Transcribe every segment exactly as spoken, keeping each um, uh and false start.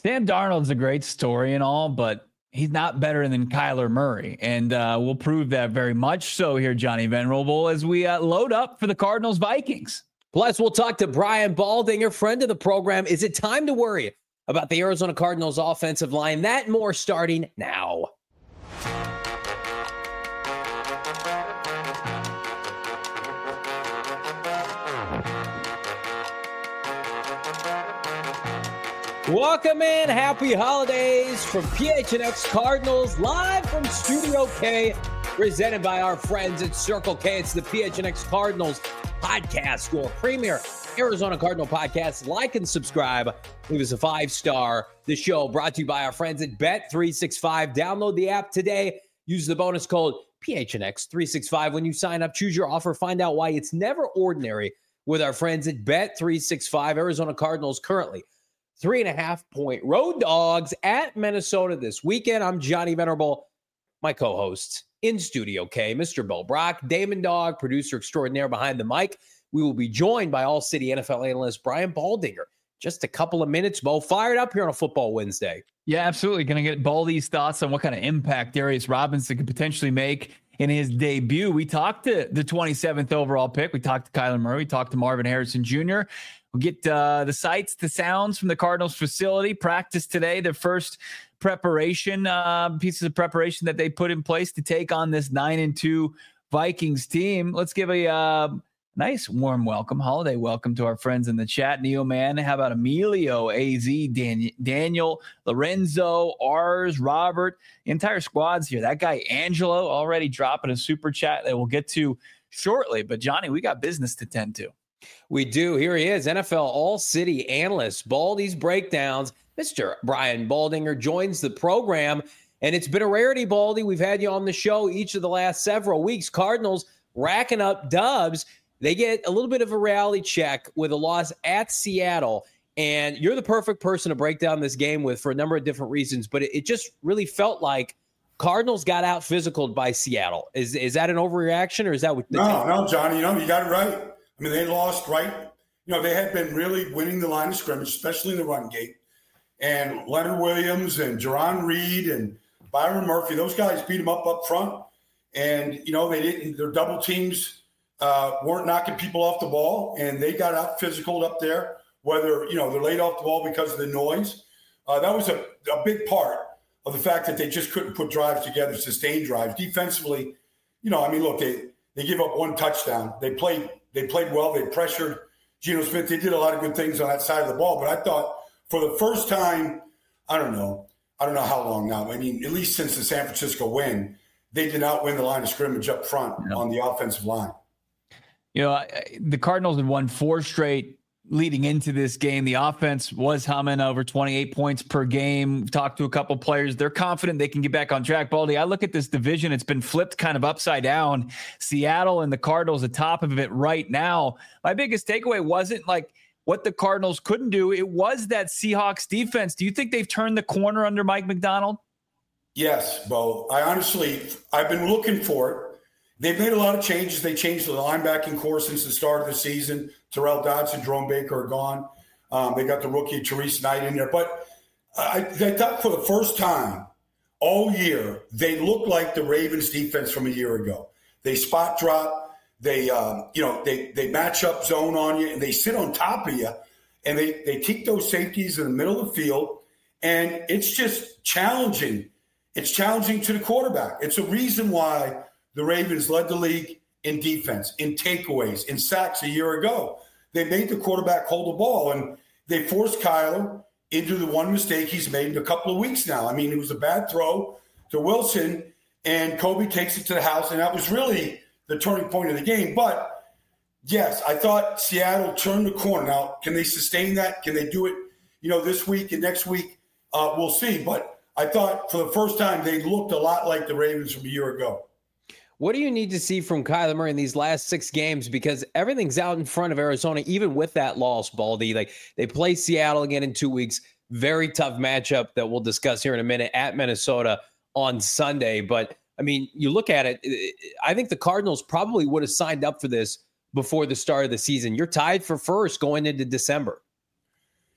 Sam Darnold's a great story and all, but he's not better than Kyler Murray. And uh, we'll prove that very much so here, Johnny Venerable, as we uh, load up for the Cardinals Vikings. Plus, we'll talk to Brian Baldinger, friend of the program. Is it time to worry about the Arizona Cardinals offensive line? That and more starting now. Welcome in. Happy holidays from P H N X Cardinals, live from Studio K, presented by our friends at Circle K. It's the P H N X Cardinals podcast, your premier Arizona Cardinal podcast. Like and subscribe. Leave us a five-star. The show brought to you by our friends at Bet three sixty-five. Download the app today. Use the bonus code P H N X three sixty-five when you sign up. Choose your offer. Find out why it's never ordinary with our friends at Bet three sixty-five. Arizona Cardinals currently Three and a half point road dogs at Minnesota this weekend. I'm Johnny Venerable, my co-host in Studio K, Mister Bill Brock, Damon Dog, producer extraordinaire behind the mic. We will be joined by All-City N F L analyst Brian Baldinger. Just a couple of minutes, Bo. Fired up here on a football Wednesday. Yeah, absolutely. Going to get Baldy's thoughts on what kind of impact Darius Robinson could potentially make in his debut. We talked to the twenty-seventh overall pick. We talked to Kyler Murray. We talked to Marvin Harrison Junior We'll get uh, the sights, the sounds from the Cardinals facility. Practice today, the first preparation, uh, pieces of preparation that they put in place to take on this nine and two Vikings team. Let's give a uh, nice warm welcome, holiday welcome to our friends in the chat. Neo Man, how about Emilio, A Z, Dan- Daniel, Lorenzo, Ars, Robert, the entire squad's here. That guy Angelo already dropping a super chat that we'll get to shortly. But Johnny, we got business to tend to. We do. Here he is, N F L All-City analyst, Baldy's Breakdowns. Mister Brian Baldinger joins the program, and it's been a rarity, Baldy. We've had you on the show each of the last several weeks. Cardinals racking up dubs. They get a little bit of a reality check with a loss at Seattle, and you're the perfect person to break down this game with for a number of different reasons, but it, it just really felt like Cardinals got out physicaled by Seattle. Is, is that an overreaction, or is that what the No, team- no, Johnny, you know, you got it right. I mean, they lost, right? You know, they had been really winning the line of scrimmage, especially in the run game. And Leonard Williams and Jerron Reed and Byron Murphy, those guys beat them up up front. And, you know, they didn't, their double teams uh, weren't knocking people off the ball, and they got out physical up there, whether, you know, they're laid off the ball because of the noise. Uh, that was a, a big part of the fact that they just couldn't put drives together, sustained drives. Defensively, you know, I mean, look, they, they give up one touchdown. They played They played well. They pressured Geno Smith. They did a lot of good things on that side of the ball. But I thought for the first time, I don't know, I don't know how long now. I mean, at least since the San Francisco win, they did not win the line of scrimmage up front no. on the offensive line. You know, the Cardinals had won four straight leading into this game. The offense was humming over twenty-eight points per game. We've talked to a couple players. They're confident they can get back on track. Baldy, I look at this division. It's been flipped kind of upside down. Seattle and the Cardinals atop of it right now. My biggest takeaway wasn't like what the Cardinals couldn't do. It was that Seahawks defense. Do you think they've turned the corner under Mike Macdonald? Yes, Bo. I honestly, I've been looking for it. They've made a lot of changes. They changed the linebacking core since the start of the season. Terrell Dodson, Jerome Baker are gone. Um, they got the rookie Therese Knight in there. But I, I thought for the first time all year, they looked like the Ravens defense from a year ago. They spot drop. They, um, you know, they they match up zone on you, and they sit on top of you, and they, they keep those safeties in the middle of the field. And it's just challenging. It's challenging to the quarterback. It's a reason why the Ravens led the league in defense, in takeaways, in sacks a year ago. They made the quarterback hold the ball, and they forced Kyler into the one mistake he's made in a couple of weeks now. I mean, it was a bad throw to Wilson, and Kobe takes it to the house, and that was really the turning point of the game. But, yes, I thought Seattle turned the corner. Now, can they sustain that? Can they do it, you know, this week and next week? Uh, we'll see. But I thought for the first time they looked a lot like the Ravens from a year ago. What do you need to see from Kyler Murray in these last six games? Because everything's out in front of Arizona, even with that loss, Baldy. Like, they play Seattle again in two weeks. Very tough matchup that we'll discuss here in a minute at Minnesota on Sunday. But, I mean, you look at it, I think the Cardinals probably would have signed up for this before the start of the season. You're tied for first going into December.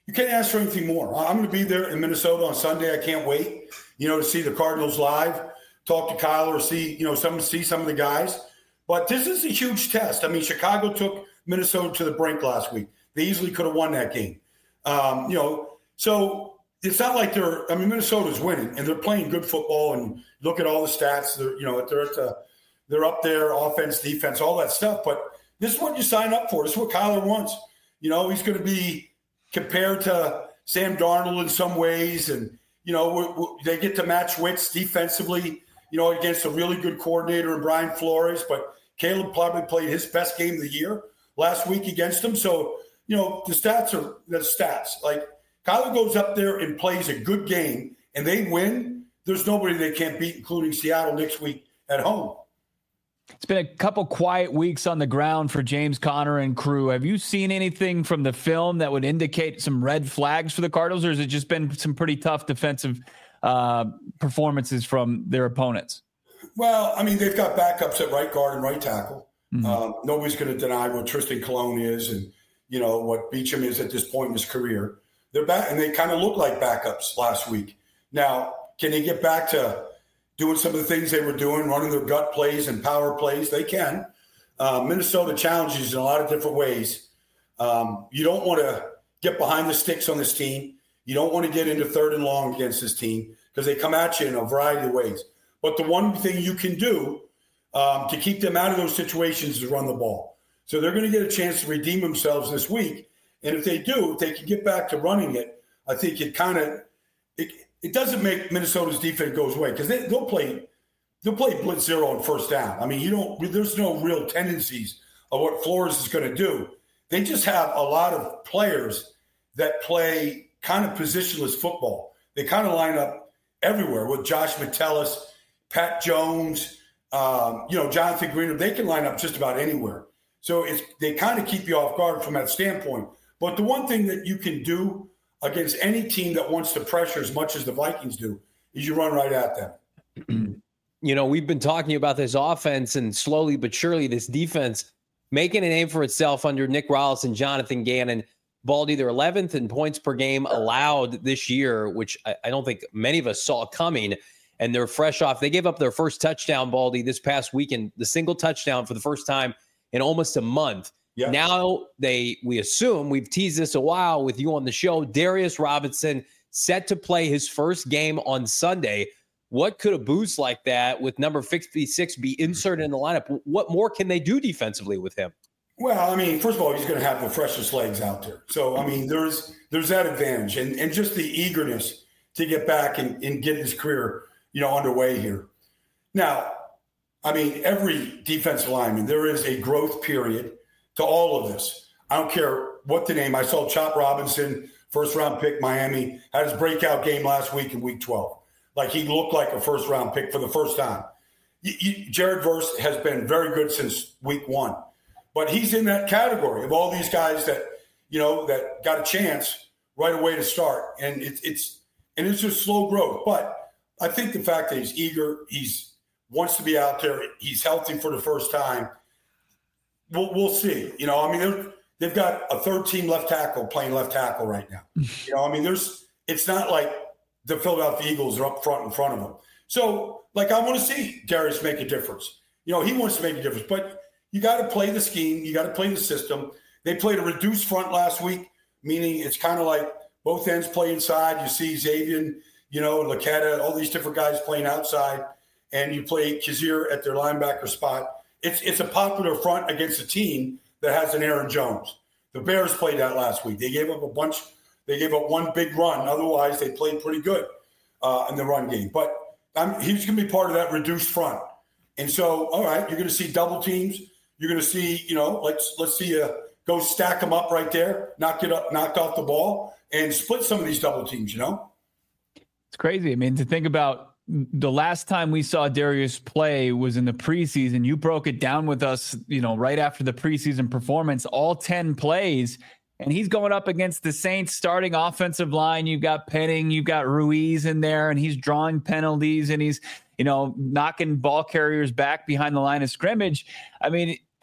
you can't ask for anything more. I'm going to be there in Minnesota on Sunday. I can't wait, you know, to see the Cardinals live, talk to Kyle or see, you know, some see some of the guys. But this is a huge test. I mean, Chicago took Minnesota to the brink last week. They easily could have won that game. Um, you know, so it's not like they're – I mean, Minnesota's winning, and they're playing good football. And look at all the stats. They're, you know, they're at the, they're up there, offense, defense, all that stuff. But this is what you sign up for. This is what Kyler wants. You know, he's going to be compared to Sam Darnold in some ways. And, you know, we're, we're, they get to match wits defensively, you know, against a really good coordinator in Brian Flores. But Caleb probably played his best game of the year last week against him. So, you know, the stats are the stats. Like, Kyler goes up there and plays a good game, and they win. There's nobody they can't beat, including Seattle next week at home. It's been a couple quiet weeks on the ground for James Conner and crew. Have you seen anything from the film that would indicate some red flags for the Cardinals, or has it just been some pretty tough defensive uh, performances from their opponents? Well, I mean, they've got backups at right guard and right tackle. Mm-hmm. Um, nobody's going to deny what Tristan Colon is and, you know, what Beachum is at this point in his career. They're back, and they kind of look like backups last week. Now, can they get back to doing some of the things they were doing, running their gut plays and power plays? They can. Uh, Minnesota challenges in a lot of different ways. Um, you don't want to get behind the sticks on this team. You don't want to get into third and long against this team because they come at you in a variety of ways. But the one thing you can do um, to keep them out of those situations is run the ball. So they're going to get a chance to redeem themselves this week. And if they do, if they can get back to running it, I think it kind of it, it doesn't make Minnesota's defense goes away because they, they'll play they'll play blitz zero on first down. I mean, you don't there's no real tendencies of what Flores is going to do. They just have a lot of players that play kind of positionless football. They kind of line up everywhere with Josh Metellus, Pat Jones, um, you know, Jonathan Greener. They can line up just about anywhere. So it's they kind of keep you off guard from that standpoint. But the one thing that you can do against any team that wants to pressure as much as the Vikings do is you run right at them. You know, we've been talking about this offense and slowly but surely this defense making a name for itself under Nick Rallis and Jonathan Gannon. Baldy, they're eleventh in points per game allowed this year, which I, I don't think many of us saw coming. And they're fresh off. They gave up their first touchdown, Baldy, this past weekend, the single touchdown for the first time in almost a month. Yeah. Now they, we assume, we've teased this a while with you on the show, Darius Robinson set to play his first game on Sunday. What could a boost like that with number fifty-six be inserted in the lineup? What more can they do defensively with him? Well, I mean, first of all, he's going to have the freshest legs out there. So, I mean, there's there's that advantage and, and just the eagerness to get back and, and get his career, you know, underway here. Now, I mean, every defensive lineman, there is a growth period to all of this. I don't care what the name. I saw Chop Robinson, first-round pick, Miami, had his breakout game last week in week twelve. Like, he looked like a first-round pick for the first time. You, you, Jared Verse has been very good since week one. But he's in that category of all these guys that, you know, that got a chance right away to start. And it, it's and it's just slow growth. But I think the fact that he's eager, he's wants to be out there, he's healthy for the first time, We'll, we'll see. You know, I mean, they've got a third-team left tackle playing left tackle right now. You know, I mean, there's it's not like the Philadelphia Eagles are up front in front of them. So, like, I want to see Darius make a difference. You know, he wants to make a difference. But you got to play the scheme. You got to play the system. They played a reduced front last week, meaning it's kind of like both ends play inside. You see Xavier, you know, Laquetta, all these different guys playing outside, and you play Kazir at their linebacker spot. It's it's a popular front against a team that has an Aaron Jones. The Bears played that last week. They gave up a bunch. They gave up one big run. Otherwise, they played pretty good uh, in the run game. But um, he's going to be part of that reduced front. And so, all right, you're going to see double teams. You're going to see, you know, let's let's see you go stack them up right there, knock it up, knocked off the ball, and split some of these double teams. You know, it's crazy. I mean, to think about. The last time we saw Darius play was in the preseason. You broke it down with us, you know, right after the preseason performance, all ten plays, and he's going up against the Saints starting offensive line. You've got Penning, you've got Ruiz in there, and he's drawing penalties and he's, you know, knocking ball carriers back behind the line of scrimmage. I mean,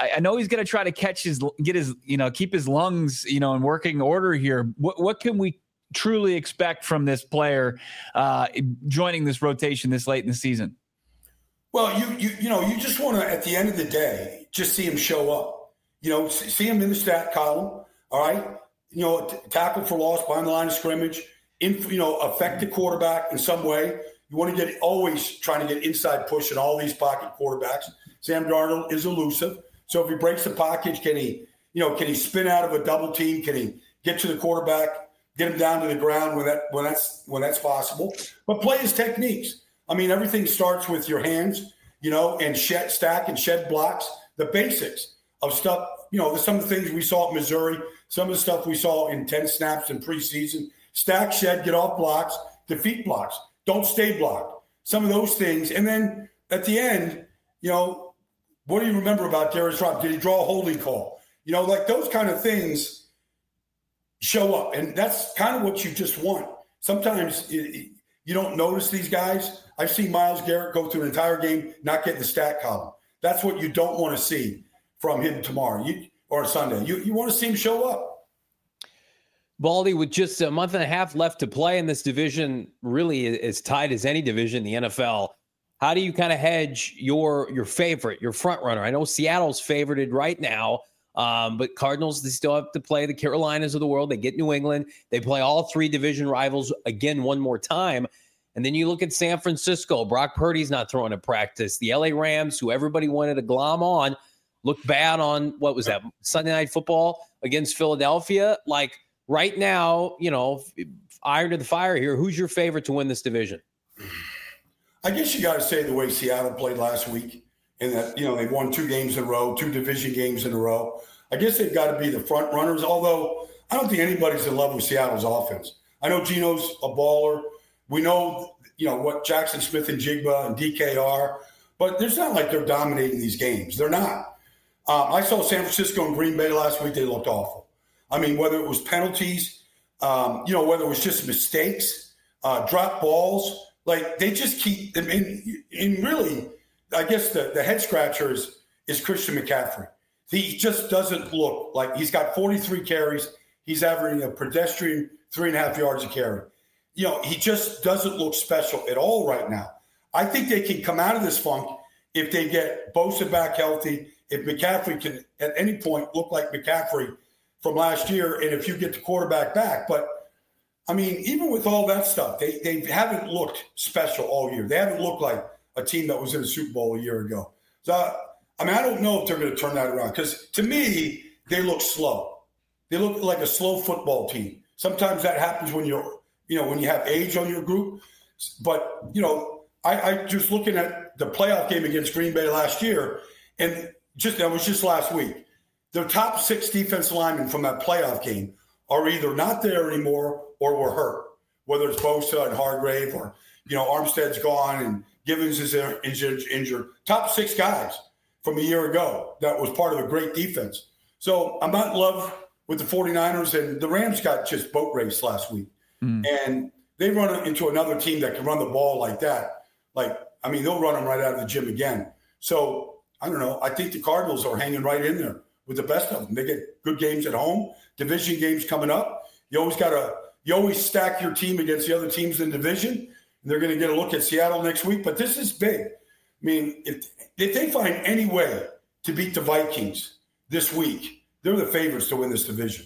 I, I know he's going to try to catch his, get his, you know, keep his lungs, you know, in working order here. What, what can we truly expect from this player uh, joining this rotation this late in the season? Well, you you you know, you just want to, at the end of the day, just see him show up. You know, see him in the stat column, all right? You know, t- tackle for loss behind the line of scrimmage, in, you know, affect the quarterback in some way. You want to get always trying to get inside push in all these pocket quarterbacks. Sam Darnold is elusive. So if he breaks the pocket, can he, you know, can he spin out of a double team? Can he get to the quarterback, get him down to the ground when that when that's when that's possible? But play his techniques. I mean, everything starts with your hands, you know, and shed, stack and shed blocks, the basics of stuff. You know, some of the things we saw at Missouri, some of the stuff we saw in ten snaps in preseason. Stack, shed, get off blocks, defeat blocks. Don't stay blocked. Some of those things. And then at the end, you know, what do you remember about Darius Rob? Did he draw a holding call? You know, like those kind of things show up. And that's kind of what you just want. Sometimes it, you don't notice these guys. I've seen Myles Garrett go through an entire game, not get the stat column. That's what you don't want to see from him tomorrow you, or Sunday. You, you want to see him show up. Baldy, with just a month and a half left to play in this division, really as tight as any division in the N F L, how do you kind of hedge your your favorite, your front runner? I know Seattle's favorited right now, um, but Cardinals, they still have to play the Carolinas of the world. They get New England. They play all three division rivals again one more time. And then you look at San Francisco. Brock Purdy's not throwing at practice. The L A Rams, who everybody wanted to glom on, looked bad on, what was that, Sunday Night Football against Philadelphia. Like, right now, you know, iron to the fire here. Who's your favorite to win this division? I guess you got to say the way Seattle played last week, and that, you know, they've won two games in a row, two division games in a row. I guess they've got to be the front runners, although I don't think anybody's in love with Seattle's offense. I know Geno's a baller. We know, you know, what Jackson Smith and Jigba and D K are, but it's not like they're dominating these games. They're not. Um, I saw San Francisco and Green Bay last week. They looked awful. I mean, whether it was penalties, um, you know, whether it was just mistakes, uh, drop balls, like they just keep them in. In really, I guess the, the head scratcher is, is Christian McCaffrey. He just doesn't look like he's got forty-three carries. He's averaging a pedestrian three and a half yards a carry. You know, he just doesn't look special at all right now. I think they can come out of this funk if they get Bosa back healthy, if McCaffrey can at any point look like McCaffrey from last year, and if you get the quarterback back. But, I mean, even with all that stuff, they, they haven't looked special all year. They haven't looked like a team that was in the Super Bowl a year ago. So, I mean, I don't know if they're going to turn that around because, to me, they look slow. They look like a slow football team. Sometimes that happens when you're, you know, when you have age on your group. But, you know, I, I just looking at the playoff game against Green Bay last year, and just that was just last week. The top six defensive linemen from that playoff game are either not there anymore or were hurt, whether it's Bosa and Hargrave or, you know, Armstead's gone and Givens is injured. injured. Top six guys from a year ago that was part of a great defense. So I'm not in love with the 49ers, and the Rams got just boat raced last week. Mm. And they run into another team that can run the ball like that. Like, I mean, they'll run them right out of the gym again. So, I don't know. I think the Cardinals are hanging right in there with the best of them. They get good games at home, division games coming up. You always got to – you always stack your team against the other teams in the division. And they're going to get a look at Seattle next week. But this is big. I mean, if, if they find any way to beat the Vikings this week, they're the favorites to win this division.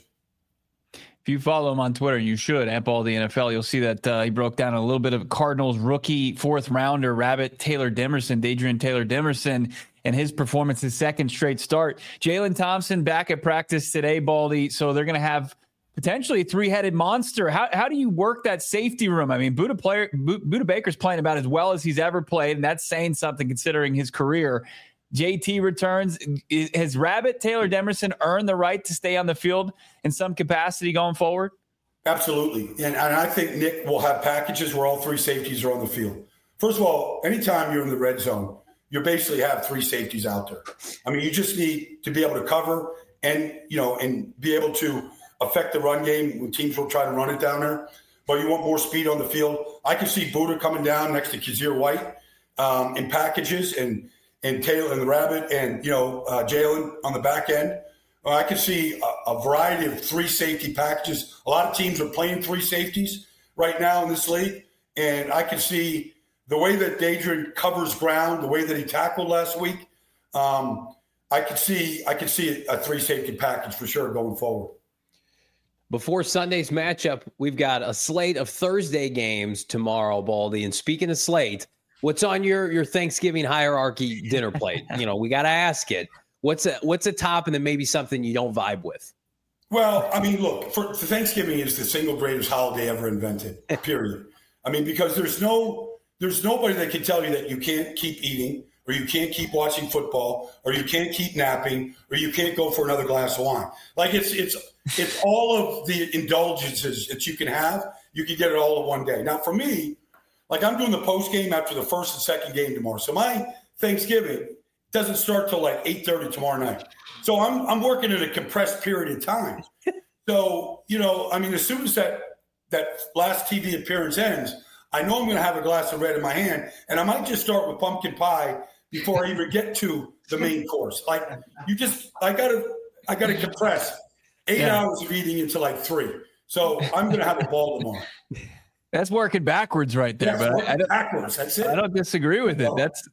If you follow him on Twitter, you should, at Ball the N F L, you'll see that uh, he broke down a little bit of Cardinals rookie fourth rounder, Rabbit Taylor Demerson, Dadrian Taylor Demerson, and his performance, his second straight start. Jalen Thompson back at practice today, Baldy. So they're going to have potentially a three-headed monster. How how do you work that safety room? I mean, Buda player Buda Baker's playing about as well as he's ever played, and that's saying something considering his career. J T returns. Has Rabbit Taylor Demerson earned the right to stay on the field in some capacity going forward? Absolutely. And, and I think Nick will have packages where all three safeties are on the field. First of all, anytime you're in the red zone, you basically have three safeties out there. I mean, you just need to be able to cover and, you know, and be able to affect the run game when teams will try to run it down there. But you want more speed on the field. I can see Buda coming down next to Kazir White um, in packages and, and Taylor and the Rabbit and, you know, uh, Jalen on the back end. Well, I can see a, a variety of three safety packages. A lot of teams are playing three safeties right now in this league. And I can see the way that Dadrian covers ground, the way that he tackled last week. Um, I could see I could see a three safety package for sure going forward. Before Sunday's matchup, we've got a slate of Thursday games tomorrow, Baldy. And speaking of slate, what's on your, your Thanksgiving hierarchy dinner plate? You know, we got to ask it. What's a, what's a top and then maybe something you don't vibe with? Well, I mean, look, for, for Thanksgiving is the single greatest holiday ever invented, period. I mean, because there's no there's nobody that can tell you that you can't keep eating or you can't keep watching football or you can't keep napping or you can't go for another glass of wine. Like it's it's it's all of the indulgences that you can have. You can get it all in one day. Now, for me, like I'm doing the post game after the first and second game tomorrow. So my Thanksgiving doesn't start till like eight thirty tomorrow night. So I'm I'm working in a compressed period of time. So, you know, I mean, as soon as that that last T V appearance ends, I know I'm going to have a glass of red in my hand, and I might just start with pumpkin pie before I even get to the main course. Like you just, I got to, I got to compress eight yeah. hours of eating into like three. So I'm going to have a ball tomorrow. That's working backwards right there, That's but I don't, backwards. That's it. I don't disagree with it. That's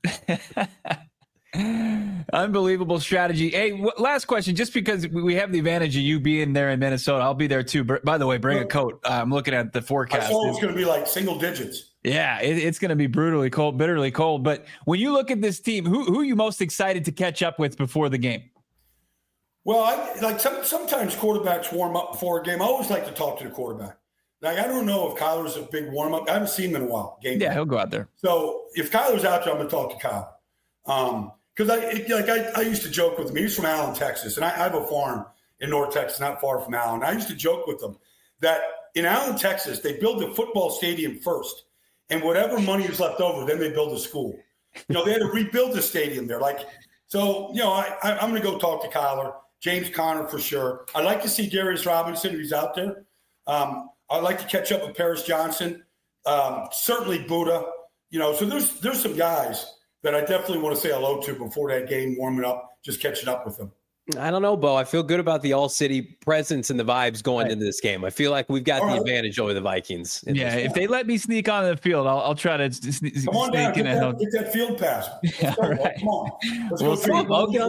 unbelievable strategy. Hey, w- last question, just because we have the advantage of you being there in Minnesota, I'll be there too. By the way, bring a coat. Uh, I'm looking at the forecast. I saw it's going to be like single digits. Yeah, it, it's going to be brutally cold, bitterly cold. But when you look at this team, who who are you most excited to catch up with before the game? Well, I, like some, sometimes quarterbacks warm up before a game. I always like to talk to the quarterback. Like I don't know if Kyler's a big warm up. I haven't seen him in a while. Game yeah, time. He'll go out there. So if Kyler's out there, I'm going to talk to Kyler. Um, Because I it, like I, I used to joke with him. He's from Allen, Texas, and I, I have a farm in North Texas, not far from Allen. I used to joke with them that in Allen, Texas, they build the football stadium first, and whatever money is left over, then they build a school. You know, they had to rebuild the stadium there. Like, so you know, I, I, I'm going to go talk to Kyler, James Conner for sure. I'd like to see Darius Robinson if he's out there. Um, I'd like to catch up with Paris Johnson, um, certainly Buddha. You know, so there's there's some guys that I definitely want to say hello to before that game, warming up, just catching up with them. I don't know, Bo. I feel good about the all-city presence and the vibes going right. into this game. I feel like we've got all the right. advantage over the Vikings. Yeah, if they let me sneak on the field, I'll, I'll try to sne- Come on sneak down, in. get that, get that field pass. Let's go, right. Come on. Let's we'll go Bo, get on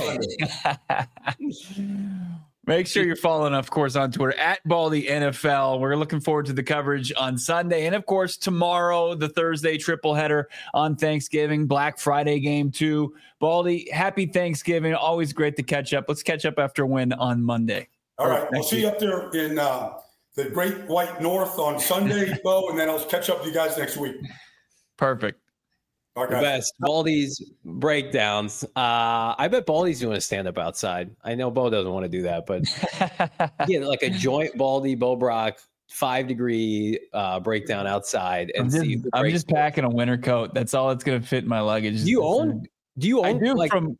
the field. Make sure you're following, of course, on Twitter at Baldy N F L. We're looking forward to the coverage on Sunday. And, of course, tomorrow, the Thursday triple header on Thanksgiving, Black Friday game, too. Baldy, happy Thanksgiving. Always great to catch up. Let's catch up after a win on Monday. All right. We'll see you up there in uh, the Great White North on Sunday, Bo, and then I'll catch up with you guys next week. Perfect. The best. Baldy's breakdowns. Uh, I bet Baldy's doing a stand-up outside. I know Bo doesn't want to do that, but yeah, like a joint Baldy, Bo Brock, five-degree uh, breakdown outside. And I'm just, see I'm just packing a winter coat. That's all that's going to fit in my luggage. Do you own? Do you own? I do. Like, from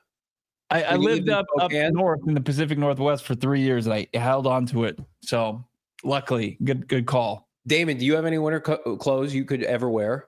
I, I lived up up north in the Pacific Northwest for three years, and I held on to it. So luckily, good good call. Damon, do you have any winter co- clothes you could ever wear?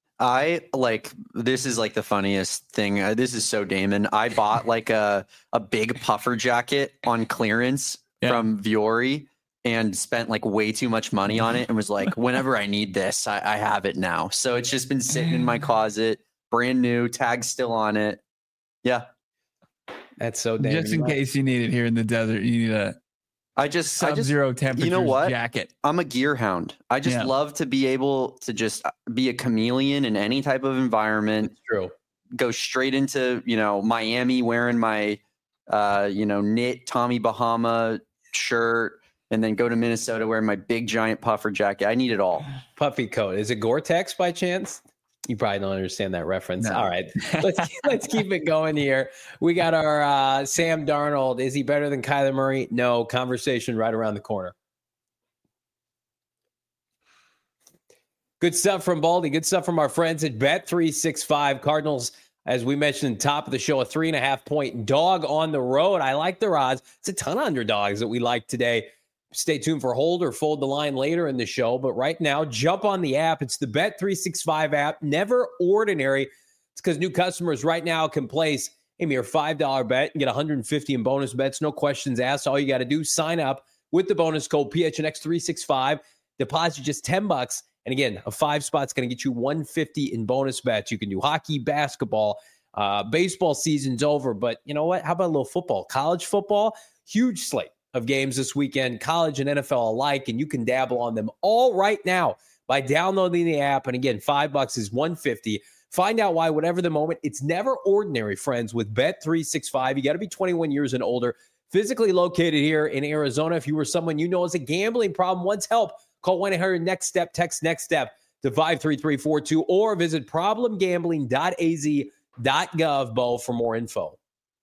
I like this is like the funniest thing. Uh, this is so Damon. I bought like a a big puffer jacket on clearance yeah. from Vuori and spent like way too much money on it and was like, whenever I need this, I, I have it now. So it's just been sitting in my closet, brand new, tag still on it. Yeah, that's so Damon. Just in case you need it here in the desert, you need a. I just sub-zero temperature you know what? jacket. I'm a gear hound. I just yeah. love to be able to just be a chameleon in any type of environment. That's true. Go straight into, you know, Miami wearing my, uh, you know, knit Tommy Bahama shirt and then go to Minnesota wearing my big giant puffer jacket. I need it all. Puffy coat. Is it Gore-Tex by chance? You probably don't understand that reference. No. All right, let's let's keep it going here. We got our uh, Sam Darnold. Is he better than Kyler Murray? No. Conversation right around the corner. Good stuff from Baldy. Good stuff from our friends at Bet three sixty-five. Cardinals, as we mentioned, top of the show, a three and a half point dog on the road. I like their odds. It's a ton of underdogs that we like today. Stay tuned for hold or fold the line later in the show. But right now, jump on the app. It's the Bet three sixty-five app. Never ordinary. It's because new customers right now can place a mere five dollars bet and get one hundred fifty in bonus bets. No questions asked. All you got to do, sign up with the bonus code P H N X three sixty-five. Deposit just ten bucks. And again, a five spot's going to get you one hundred fifty in bonus bets. You can do hockey, basketball, uh, baseball season's over. But you know what? How about a little football? College football, huge slate of games this weekend, college and N F L alike, and you can dabble on them all right now by downloading the app. And again, five bucks is one hundred fifty. Find out why, whatever the moment, it's never ordinary, friends, with Bet three sixty-five. You got to be twenty-one years and older, physically located here in Arizona. If you or someone you know has a gambling problem, wants help, call one eight hundred next step, text next step to five three three four two, or visit problem gambling dot a z dot gov, Bo, for more info.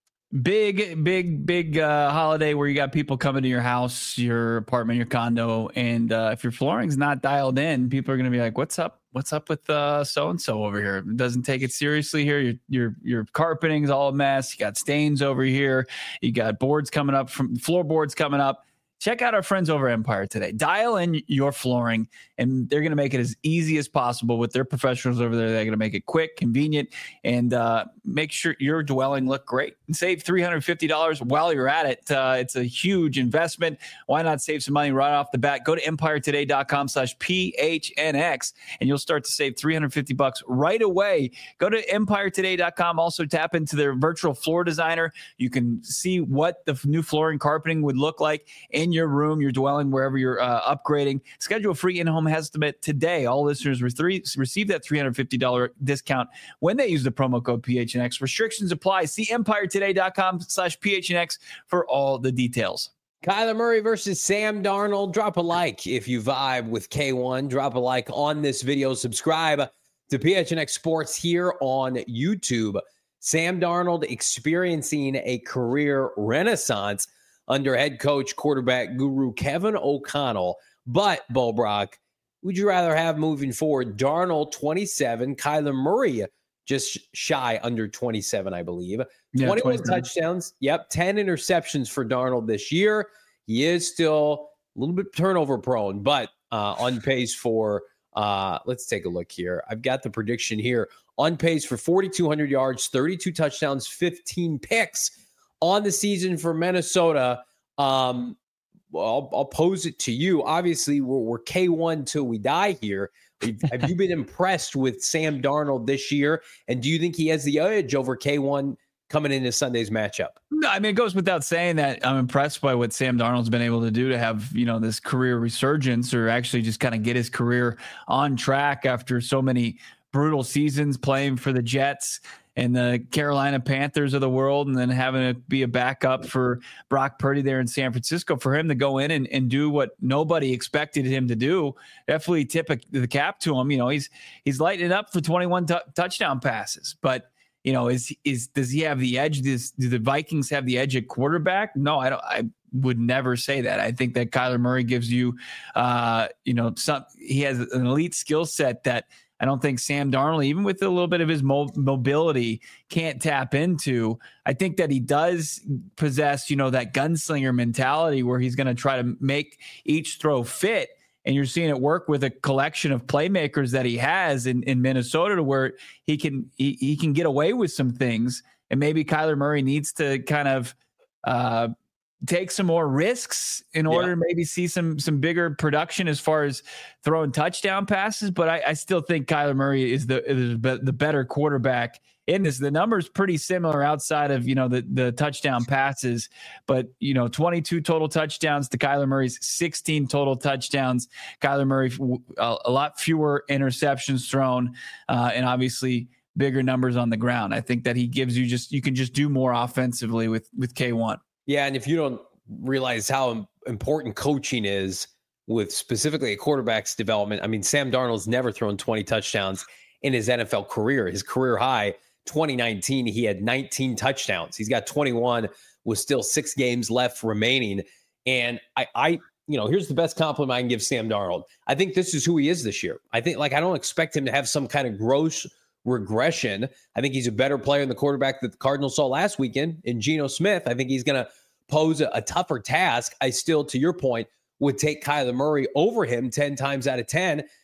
Big, big, big uh, holiday where you got people coming to your house, your apartment, your condo. And uh, if your flooring's not dialed in, people are going to be like, what's up? What's up with uh, so-and-so over here? It doesn't take it seriously here. Your, your, your carpeting's all a mess. You got stains over here. You got boards coming up from floorboards coming up. Check out our friends over at Empire today. Dial in your flooring, and they're going to make it as easy as possible with their professionals over there. They're going to make it quick, convenient, and uh, make sure your dwelling look great. And save three hundred fifty dollars while you're at it. Uh, it's a huge investment. Why not save some money right off the bat? Go to empire today dot com slash P H N X, and you'll start to save three hundred fifty bucks right away. Go to empire today dot com. Also tap into their virtual floor designer. You can see what the new flooring carpeting would look like in your room, your dwelling, wherever you're uh, upgrading. Schedule a free in-home estimate today. All listeners receive that three hundred fifty dollars discount when they use the promo code P H N X. Restrictions apply. See empire today dot com slash P H N X for all the details. Kyler Murray versus Sam Darnold. Drop a like if you vibe with K one. Drop a like on this video. Subscribe to P H N X Sports here on YouTube. Sam Darnold experiencing a career renaissance under head coach, quarterback guru Kevin O'Connell. But, Bo Brock, would you rather have moving forward Darnold twenty-seven, Kyler Murray just shy under twenty-seven, I believe. Yeah, twenty-one twenty-seven touchdowns. Yep, ten interceptions for Darnold this year. He is still a little bit turnover prone, but uh, on pace for, uh, let's take a look here. I've got the prediction here. On pace for forty-two hundred yards, thirty-two touchdowns, fifteen picks on the season for Minnesota. Um, I'll, I'll pose it to you. Obviously, we're, we're K one till we die here. Have you been impressed with Sam Darnold this year? And do you think he has the edge over K one coming into Sunday's matchup? No, I mean, it goes without saying that I'm impressed by what Sam Darnold's been able to do to have, you know, this career resurgence, or actually just kind of get his career on track after so many brutal seasons playing for the Jets and the Carolina Panthers of the world, and then having to be a backup for Brock Purdy there in San Francisco. For him to go in and, and do what nobody expected him to do, definitely tip a, the cap to him. You know, he's he's lighting it up for twenty-one t- touchdown passes. But, you know, is is does he have the edge? Does, do the Vikings have the edge at quarterback? No, I don't. I would never say that. I think that Kyler Murray gives you, uh, you know, some. He has an elite skill set that I don't think Sam Darnold, even with a little bit of his mo- mobility, can't tap into. I think that he does possess, you know, that gunslinger mentality where he's going to try to make each throw fit. And you're seeing it work with a collection of playmakers that he has in, in Minnesota, to where he can he, he can get away with some things. And maybe Kyler Murray needs to kind of uh, take some more risks in order yeah. to maybe see some some bigger production as far as throwing touchdown passes. But I, I still think Kyler Murray is the is the better quarterback in this. The number's pretty similar outside of, you know, the the touchdown passes, but, you know, twenty-two total touchdowns to Kyler Murray's sixteen total touchdowns. Kyler Murray a, a lot fewer interceptions thrown, uh, and obviously bigger numbers on the ground. I think that he gives you just you can just do more offensively with with K one. Yeah, and if you don't realize how important coaching is with specifically a quarterback's development, I mean, Sam Darnold's never thrown twenty touchdowns in his N F L career. His career high, twenty nineteen, he had nineteen touchdowns. He's got twenty-one with still six games left remaining. And I, I, you know, here's the best compliment I can give Sam Darnold. I think this is who he is this year. I think, like, I don't expect him to have some kind of gross regression. I think he's a better player than the quarterback that the Cardinals saw last weekend in Geno Smith. I think he's going to pose a, a tougher task. I still, to your point, would take Kyler Murray over him ten times out of ten.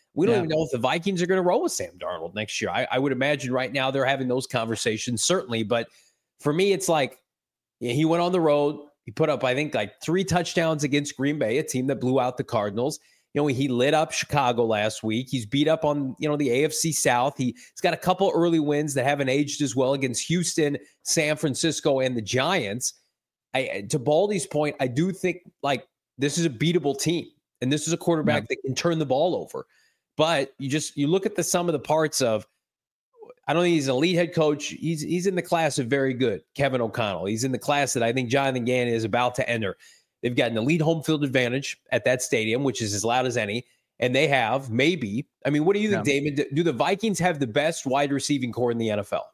We don't Yeah. even know if the Vikings are going to roll with Sam Darnold next year. I, I would imagine right now they're having those conversations, certainly. But for me, it's like yeah, he went on the road. He put up, I think, like three touchdowns against Green Bay, a team that blew out the Cardinals. You know, he lit up Chicago last week. He's beat up on, you know, the A F C South. He, he's got a couple early wins that haven't aged as well against Houston, San Francisco, and the Giants. I, to Baldy's point, I do think, like, this is a beatable team. And this is a quarterback yeah. that can turn the ball over. But you just, you look at the sum of the parts of, I don't think he's an elite head coach. He's he's in the class of very good, Kevin O'Connell. He's in the class that I think Jonathan Gannon is about to enter. They've got an elite home field advantage at that stadium, which is as loud as any. And they have, maybe, I mean, what do you think, yeah. Damon? Do the Vikings have the best wide receiving core in the N F L?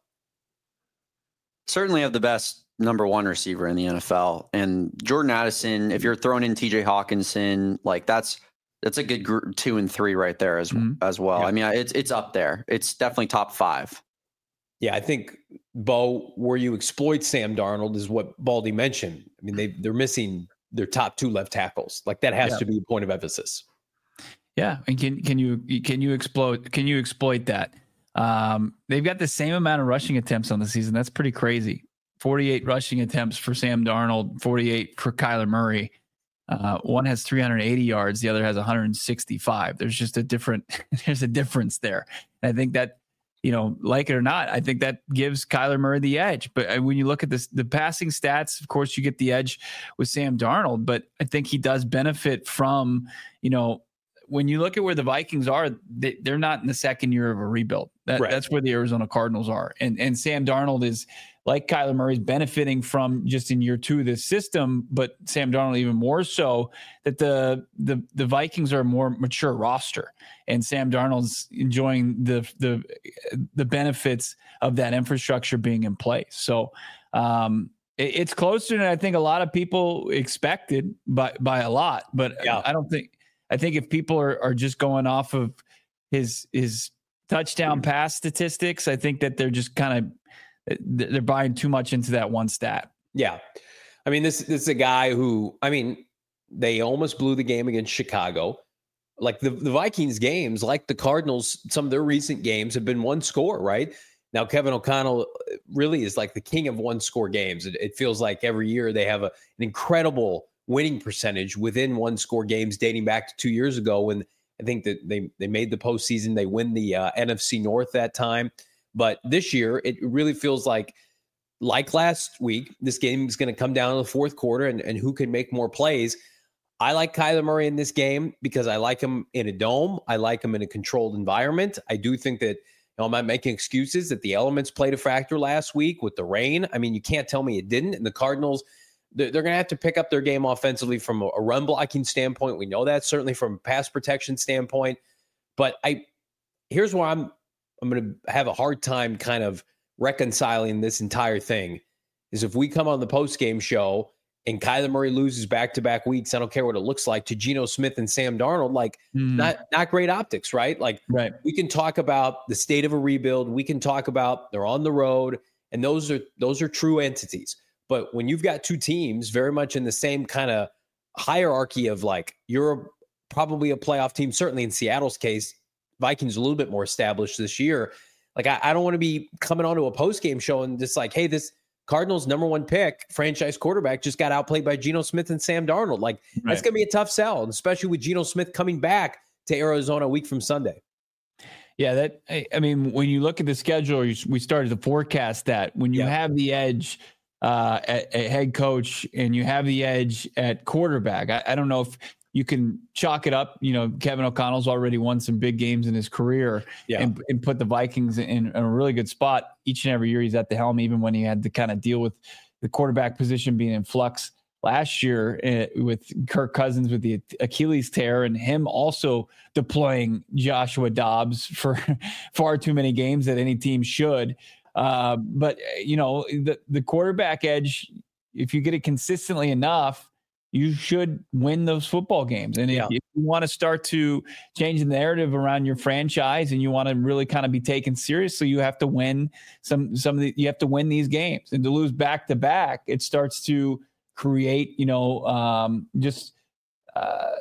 Certainly have the best number one receiver in the N F L. And Jordan Addison, if you're throwing in T J Hawkinson, like that's that's a good group, two and three right there as, mm-hmm. as well. Yeah. I mean, it's it's up there. It's definitely top five. Yeah, I think, Bo, where you exploit Sam Darnold is what Baldy mentioned. I mean, they, they're missing their top two left tackles. Like that has yeah. to be a point of emphasis. Yeah, and can can you can you exploit can you exploit that? Um, they've got the same amount of rushing attempts on the season. That's pretty crazy. forty-eight rushing attempts for Sam Darnold, forty-eight for Kyler Murray. Uh, one has three hundred eighty yards, the other has one hundred sixty-five. There's just a different there's a difference there. And I think that, you know, like it or not, I think that gives Kyler Murray the edge. But when you look at this, the passing stats, of course, you get the edge with Sam Darnold. But I think he does benefit from, you know, when you look at where the Vikings are, they, they're not in the second year of a rebuild. That, right. That's where the Arizona Cardinals are. And and Sam Darnold is, like Kyler Murray, is benefiting from just in year two of this system, but Sam Darnold even more so, that the the the Vikings are a more mature roster, and Sam Darnold's enjoying the the the benefits of that infrastructure being in place. So um, it, it's closer than I think a lot of people expected by by a lot. But yeah. I don't think I think if people are are just going off of his his touchdown pass statistics, I think that they're just kind of they're buying too much into that one stat. Yeah. I mean, this, this is a guy who, I mean, they almost blew the game against Chicago. Like the, the Vikings games, like the Cardinals, some of their recent games have been one score, right? Now, Kevin O'Connell really is like the king of one score games. It, it feels like every year they have a, an incredible winning percentage within one score games dating back to two years ago when I think that they, they made the postseason. They win the uh, N F C North that time. But this year, it really feels like, like last week, this game is going to come down to the fourth quarter and, and who can make more plays. I like Kyler Murray in this game because I like him in a dome. I like him in a controlled environment. I do think that, you know, I'm not making excuses that the elements played a factor last week with the rain. I mean, you can't tell me it didn't. And the Cardinals, they're, they're going to have to pick up their game offensively from a, a run blocking standpoint. We know that, certainly from a pass protection standpoint. But I here's where I'm I'm going to have a hard time kind of reconciling this entire thing is if we come on the post-game show and Kyler Murray loses back-to-back weeks, I don't care what it looks like, to Geno Smith and Sam Darnold, like mm. not, not great optics, right? Like right. we can talk about the state of a rebuild. We can talk about they're on the road, and those are, those are true entities. But when you've got two teams very much in the same kind of hierarchy of like, you're a, probably a playoff team, certainly in Seattle's case, Vikings a little bit more established this year. Like, I, I don't want to be coming onto a post-game show and just like, hey, this Cardinals number one pick, franchise quarterback, just got outplayed by Geno Smith and Sam Darnold. Like, right. That's going to be a tough sell, and especially with Geno Smith coming back to Arizona a week from Sunday. Yeah, that I, I mean, when you look at the schedule, you, we started to forecast that when you yeah. have the edge uh, at, at head coach and you have the edge at quarterback. I, I don't know if you can chalk it up. You know, Kevin O'Connell's already won some big games in his career yeah. and, and put the Vikings in, in a really good spot each and every year he's at the helm, even when he had to kind of deal with the quarterback position being in flux last year uh, with Kirk Cousins with the Achilles tear and him also deploying Joshua Dobbs for far too many games that any team should. Uh, but, you know, the, the quarterback edge, if you get it consistently enough, you should win those football games. And if, yeah. if you want to start to change the narrative around your franchise and you want to really kind of be taken seriously, you have to win some, some of the, you have to win these games. And to lose back to back, it starts to create, you know, um, just, uh,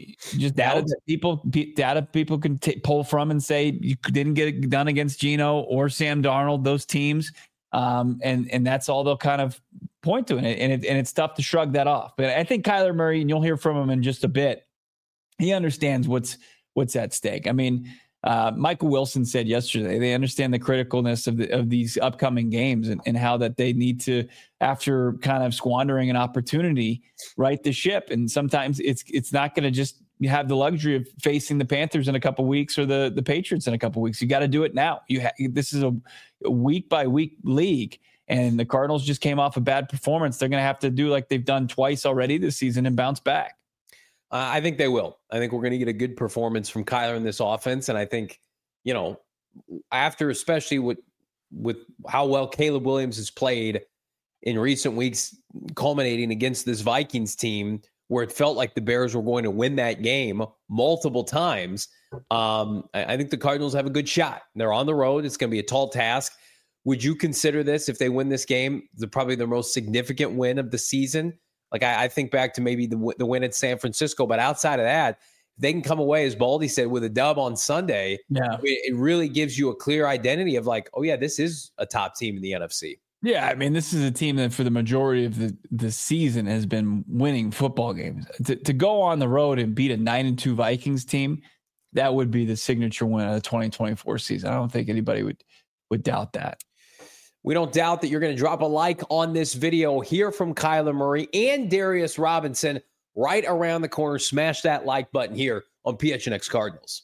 Just data that people, data people can t- pull from and say you didn't get it done against Geno or Sam Darnold, those teams, um, and and that's all they'll kind of point to, and it, and, it, and it's tough to shrug that off. But I think Kyler Murray, and you'll hear from him in just a bit, he understands what's what's at stake. I mean, uh, Michael Wilson said yesterday they understand the criticalness of the, of these upcoming games and, and how that they need to, after kind of squandering an opportunity, right the ship. And sometimes it's it's not going to just have the luxury of facing the Panthers in a couple weeks or the the Patriots in a couple weeks. You got to do it now. You ha- this is a, a week by week league, and the Cardinals just came off a bad performance. They're going to have to do like they've done twice already this season and bounce back. Uh, I think they will. I think we're going to get a good performance from Kyler in this offense. And I think, you know, after especially with with how well Caleb Williams has played in recent weeks, culminating against this Vikings team, where it felt like the Bears were going to win that game multiple times, um, I, I think the Cardinals have a good shot. They're on the road. It's going to be a tall task. Would you consider this, if they win this game, the probably their most significant win of the season? Like I, I think back to maybe the the win at San Francisco, but outside of that, if they can come away, as Baldy said, with a dub on Sunday, yeah, it, it really gives you a clear identity of like, oh yeah, this is a top team in the N F C. Yeah, I mean, this is a team that for the majority of the, the season has been winning football games. To, to go on the road and beat a nine and two Vikings team, that would be the signature win of the twenty twenty-four season. I don't think anybody would would doubt that. We don't doubt that you're going to drop a like on this video, hear from Kyler Murray and Darius Robinson right around the corner. Smash that like button here on P H N X Cardinals.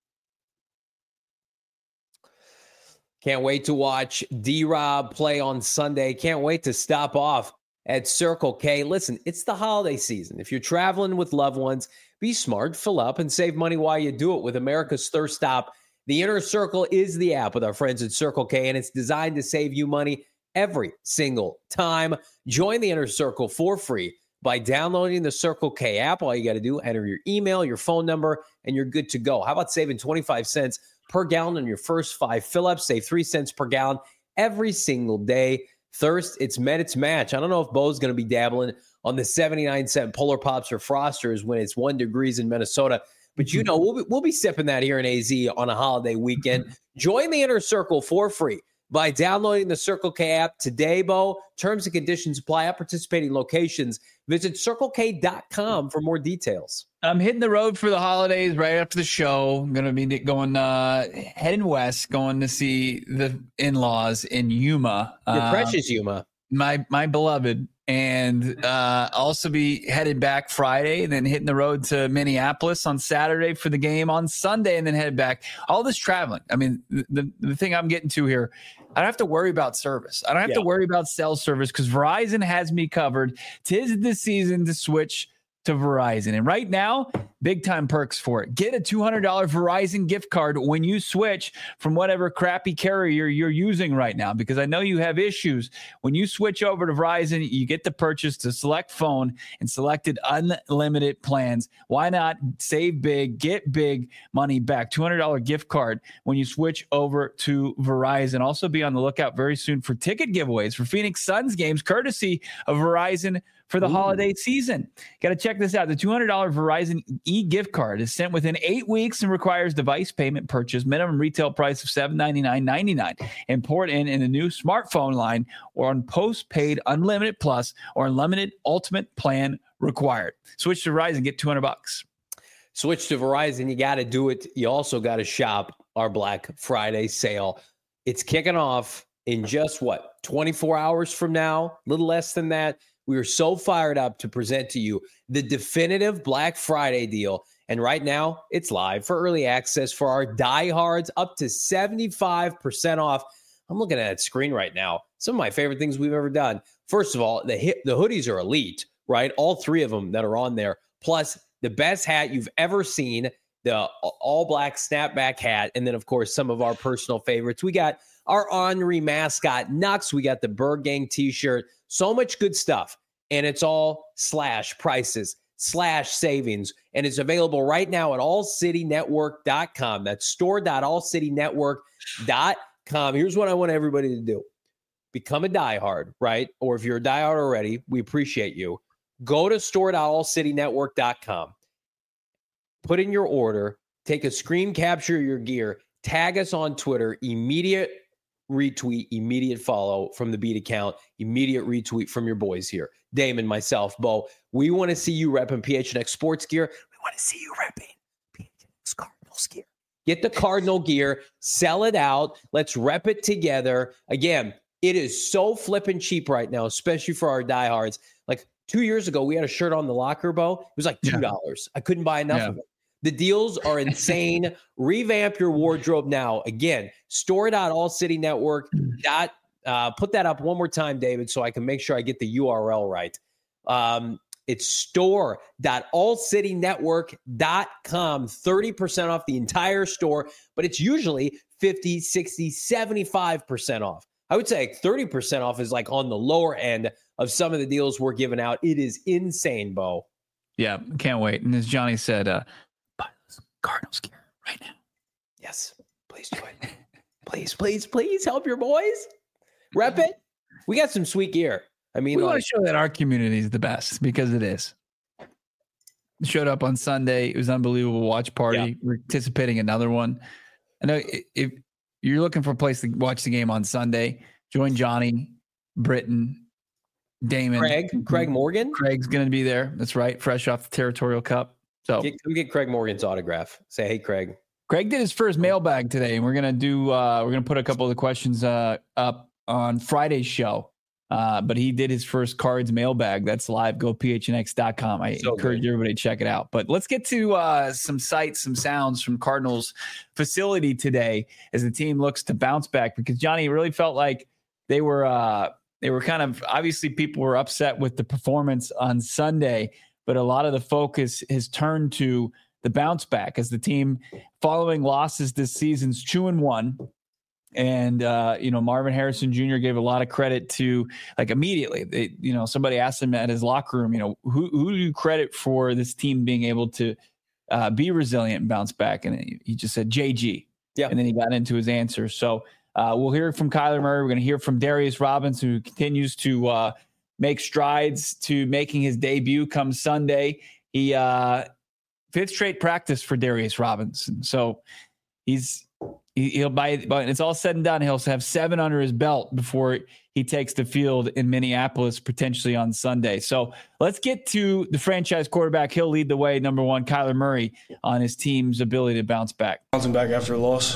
Can't wait to watch D-Rob play on Sunday. Can't wait to stop off at Circle K. Listen, it's the holiday season. If you're traveling with loved ones, be smart, fill up, and save money while you do it with America's Thirst Stop. The Inner Circle is the app with our friends at Circle K, and it's designed to save you money every single time. Join the Inner Circle for free by downloading the Circle K app. All you got to do, enter your email, your phone number, and you're good to go. How about saving twenty-five cents per gallon on your first five fill-ups? Save three cents per gallon every single day. Thirst, it's met its match. I don't know if Bo's going to be dabbling on the seventy-nine cent Polar Pops or Frosters when it's one degrees in Minnesota. But, you know, we'll be, we'll be sipping that here in A Z on a holiday weekend. Join the Inner Circle for free by downloading the Circle K app today, Bo. Terms and conditions apply at participating locations. Visit circle k dot com for more details. I'm hitting the road for the holidays right after the show. I'm going to be going, uh, heading west, going to see the in-laws in Yuma. Your uh, precious Yuma. My, my beloved. And uh, also be headed back Friday, and then hitting the road to Minneapolis on Saturday for the game on Sunday, and then headed back. All this traveling. I mean, the, the thing I'm getting to here, I don't have to worry about service. I don't have yeah. to worry about cell service because Verizon has me covered. 'Tis the season to switch to Verizon. And right now, big time perks for it. Get a two hundred dollars Verizon gift card when you switch from whatever crappy carrier you're using right now, because I know you have issues. When you switch over to Verizon, you get to purchase the select phone and selected unlimited plans. Why not save big, get big money back? two hundred dollars gift card when you switch over to Verizon. Also be on the lookout very soon for ticket giveaways for Phoenix Suns games, courtesy of Verizon for the Ooh. holiday season. Got to check this out. The two hundred dollars Verizon e-gift card is sent within eight weeks and requires device payment purchase. Minimum retail price of seven hundred ninety-nine dollars and ninety-nine cents. And port in in the new smartphone line or on postpaid unlimited plus or unlimited ultimate plan required. Switch to Verizon, get two hundred bucks. Switch to Verizon. You got to do it. You also got to shop our Black Friday sale. It's kicking off in just what, twenty-four hours from now, a little less than that. We are so fired up to present to you the definitive Black Friday deal. And right now, it's live for early access for our diehards, up to seventy-five percent off. I'm looking at that screen right now. Some of my favorite things we've ever done. First of all, the hit, the hoodies are elite, right? All three of them that are on there. Plus, the best hat you've ever seen, the all-black snapback hat. And then, of course, some of our personal favorites. We got our Henry mascot, Nux. We got the Bird Gang t-shirt. So much good stuff. And it's all slash prices, slash savings. And it's available right now at all city network dot com. That's store dot all city network dot com. Here's what I want everybody to do. Become a diehard, right? Or if you're a diehard already, we appreciate you. Go to store dot all city network dot com. put in your order, take a screen capture of your gear, tag us on Twitter, immediate retweet, immediate follow from the Beat account, immediate retweet from your boys here. Damon, myself, Bo. We want to see you repping P H N X sports gear. We want to see you repping P H N X Cardinals gear. Get the Cardinal gear, sell it out. Let's rep it together. Again, it is so flipping cheap right now, especially for our diehards. Like two years ago, we had a shirt on the locker, Bo. It was like two dollars. Yeah. I couldn't buy enough yeah. of it. The deals are insane. Revamp your wardrobe now. Again, store dot all city network. Dot, uh, put that up one more time, David, so I can make sure I get the U R L right. Um, it's store dot all city network dot com. thirty percent off the entire store, but it's usually fifty, sixty, seventy-five percent off. I would say thirty percent off is like on the lower end of some of the deals we're giving out. It is insane, Bo. Yeah, can't wait. And as Johnny said, uh, buy those Cardinals gear right now. Yes, please do it. please, please, please help your boys. Rep it. We got some sweet gear. I mean, we like, want to show that our community is the best because it is. Showed up on Sunday. It was an unbelievable watch party. Yeah. We're anticipating another one. I know if you're looking for a place to watch the game on Sunday, join Johnny, Britton, Damon, Craig, Craig Morgan. Craig's going to be there. That's right. Fresh off the Territorial Cup. So get, come get Craig Morgan's autograph. Say, hey, Craig. Craig did his first mailbag today, and we're going to do, uh, we're going to put a couple of the questions uh, up on Friday's show. Uh, but he did his first cards mailbag. That's live. Go P H N X dot com. I so encourage good. everybody to check it out. But let's get to uh, some sights, some sounds from Cardinals facility today as the team looks to bounce back. Because Johnny really felt like they were uh, they were kind of obviously people were upset with the performance on Sunday, but a lot of the focus has turned to the bounce back as the team following losses this season's two and one. And, uh, you know, Marvin Harrison Junior gave a lot of credit to, like, immediately, they, you know, somebody asked him at his locker room, you know, who, who do you credit for this team being able to uh, be resilient and bounce back? And he just said J G. Yeah. And then he got into his answer. So uh, we'll hear from Kyler Murray. We're going to hear from Darius Robinson, who continues to uh, make strides to making his debut come Sunday. He uh, fifth straight practice for Darius Robinson. So he's, He'll buy, but it's all said and done. He'll have seven under his belt before he takes the field in Minneapolis, potentially on Sunday. So let's get to the franchise quarterback. He'll lead the way. Number one, Kyler Murray, on his team's ability to bounce back. Bouncing back after a loss.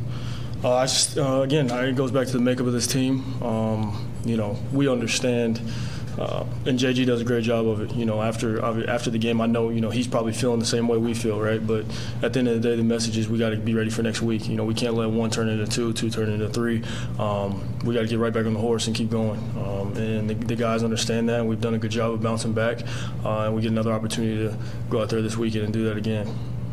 Uh, I just, uh, again, it goes back to the makeup of this team. Um, you know, we understand. Uh, and J G does a great job of it. You know, after after the game, I know, you know, he's probably feeling the same way we feel, right? But at the end of the day, the message is we got to be ready for next week. You know, we can't let one turn into two, two turn into three. Um, we got to get right back on the horse and keep going. Um, and the, the guys understand that. We've done a good job of bouncing back. Uh, and we get another opportunity to go out there this weekend and do that again.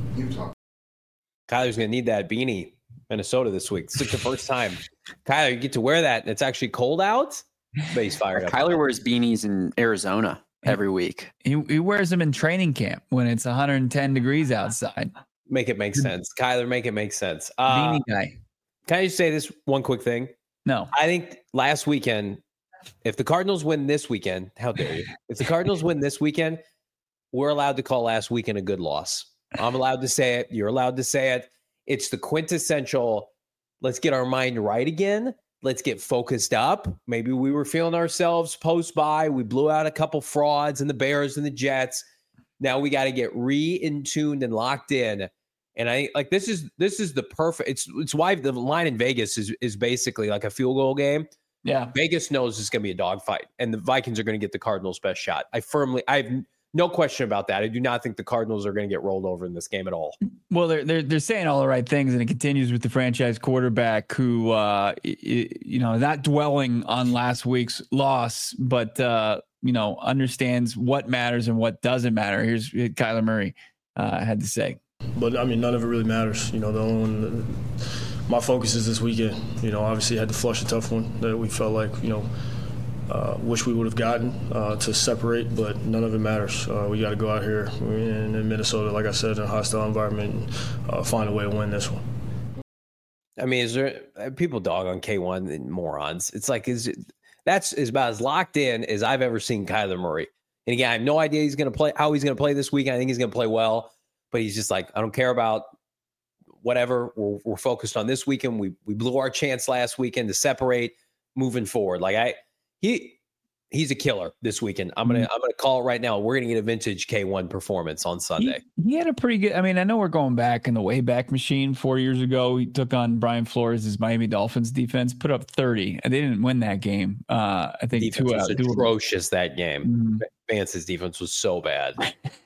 Kyler's going to need that beanie, Minnesota, this week. It's like the first time. Kyler, you get to wear that, and it's actually cold out. But he's fired up. Kyler wears beanies in Arizona every week. He, he wears them in training camp when it's one hundred ten degrees outside. Make it make sense. Kyler, make it make sense. Uh, Beanie guy. Can I just say this one quick thing? No. I think last weekend, if the Cardinals win this weekend, how dare you? If the Cardinals win this weekend, we're allowed to call last weekend a good loss. I'm allowed to say it. You're allowed to say it. It's the quintessential, let's get our mind right again. Let's get focused up. Maybe we were feeling ourselves post-bye. We blew out a couple frauds and the Bears and the Jets. Now we got to get re-in-tuned and locked in. And I like this is this is the perfect. It's it's why the line in Vegas is is basically like a field goal game. Yeah, Vegas knows it's going to be a dogfight, and the Vikings are going to get the Cardinals' best shot. I firmly, I have no question about that. I do not think the Cardinals are going to get rolled over in this game at all. Well, they're they're they're saying all the right things, and it continues with the franchise quarterback who, uh, you know, not dwelling on last week's loss, but uh, you know, understands what matters and what doesn't matter. Here's what Kyler Murray uh, had to say. But I mean, none of it really matters. You know, the only one, my focus is this weekend. You know, obviously had to flush a tough one that we felt like, you know. Uh, wish we would have gotten uh, to separate, but none of it matters. Uh, we got to go out here in, in Minnesota, like I said, in a hostile environment, and uh, find a way to win this one. I mean, is there people dog on K one and morons? It's like is it, that's is about as locked in as I've ever seen Kyler Murray. And again, I have no idea he's going to play how he's going to play this weekend. I think he's going to play well, but he's just like, I don't care about whatever. We're, we're focused on this weekend. We we blew our chance last weekend to separate moving forward. Like I, he, he's a killer this weekend. I'm gonna I'm gonna call it right now. We're gonna get a vintage K one performance on Sunday. He, he had a pretty good. I mean, I know we're going back in the Wayback Machine. Four years ago, he took on Brian Flores' Miami Dolphins defense, put up thirty, and they didn't win that game. Uh, I think defense two was out. Atrocious that game. Mm-hmm. Vance's defense was so bad.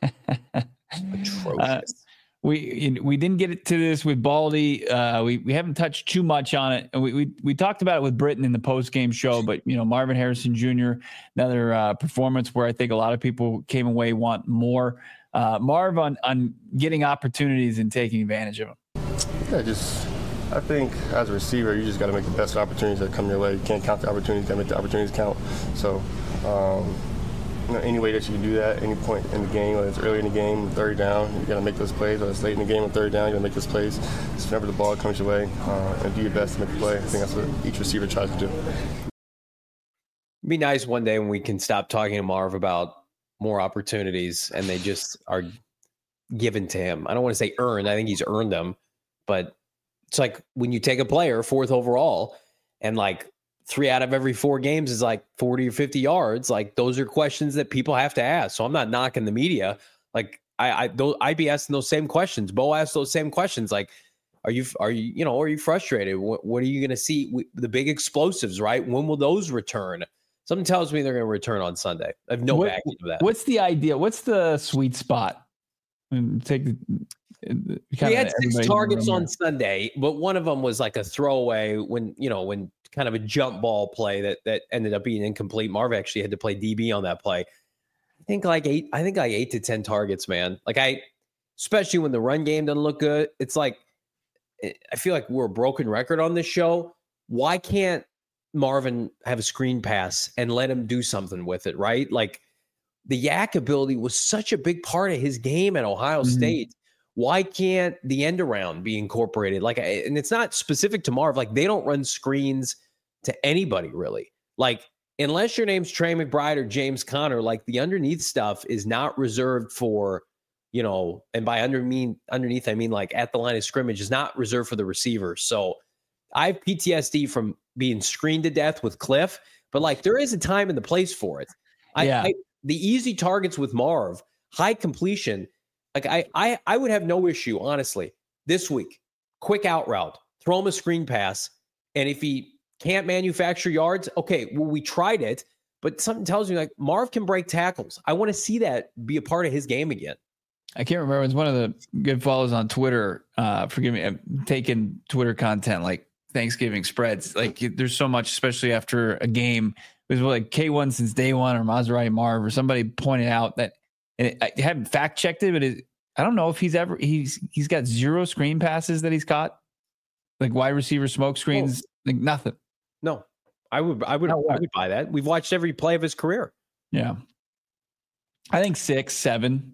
Atrocious. Uh, We we didn't get to this with Baldy. Uh, we we haven't touched too much on it. We we we talked about it with Britton in the post game show, but you know Marvin Harrison Junior Another uh, performance where I think a lot of people came away want more. Uh, Marv on on getting opportunities and taking advantage of them. Yeah, just I think as a receiver, you just got to make the best opportunities that come your way. You can't count the opportunities; you got to make the opportunities count. So. Um, You know, any way that you can do that, any point in the game, whether it's early in the game, third down, you got to make those plays. Whether it's late in the game or third down, you got to make those plays. Just whenever the ball comes your way, uh, and do your best to make the play. I think that's what each receiver tries to do. It'd be nice one day when we can stop talking to Marv about more opportunities and they just are given to him. I don't want to say earned. I think he's earned them, but it's like when you take a player fourth overall and like three out of every four games is like forty or fifty yards. Like those are questions that people have to ask. So I'm not knocking the media. Like I, I, those, I'd be asking those same questions. Bo asked those same questions. Like, are you, are you, you know, are you frustrated? What, what are you going to see? We, the big explosives, right? When will those return? Something tells me they're going to return on Sunday. I have no what, backing of that. What's the idea? What's the sweet spot? And take the, we had six targets on Sunday, but one of them was like a throwaway when, you know, when kind of a jump ball play that, that ended up being incomplete. Marv actually had to play D B on that play. I think like eight, I think like eight to ten targets, man. Like I, especially when the run game doesn't look good. It's like, I feel like we're a broken record on this show. Why can't Marvin have a screen pass and let him do something with it, right? Like the yak ability was such a big part of his game at Ohio mm-hmm. State. Why can't the end around be incorporated? Like, and it's not specific to Marv. Like, they don't run screens to anybody, really. Like, unless your name's Trey McBride or James Conner, like, the underneath stuff is not reserved for, you know, and by under mean underneath, I mean, like, at the line of scrimmage is not reserved for the receivers. So I have P T S D from being screened to death with Cliff, but, like, there is a time and the place for it. I, yeah. I, the easy targets with Marv, high completion. Like I, I, I would have no issue, honestly, this week. Quick out route, throw him a screen pass, and if he can't manufacture yards, okay, well, we tried it, but something tells me like Marv can break tackles. I want to see that be a part of his game again. I can't remember. It's one of the good follows on Twitter. Uh, forgive me, I'm taking Twitter content like Thanksgiving spreads. Like there's so much, especially after a game. It was like K one since day one, or Maserati Marv, or somebody pointed out that. And I haven't fact checked it, but it, I don't know if he's ever he's he's got zero screen passes that he's caught, like wide receiver smoke screens, oh. like nothing. No, I would I would I would buy that. We've watched every play of his career. Yeah, I think six, seven.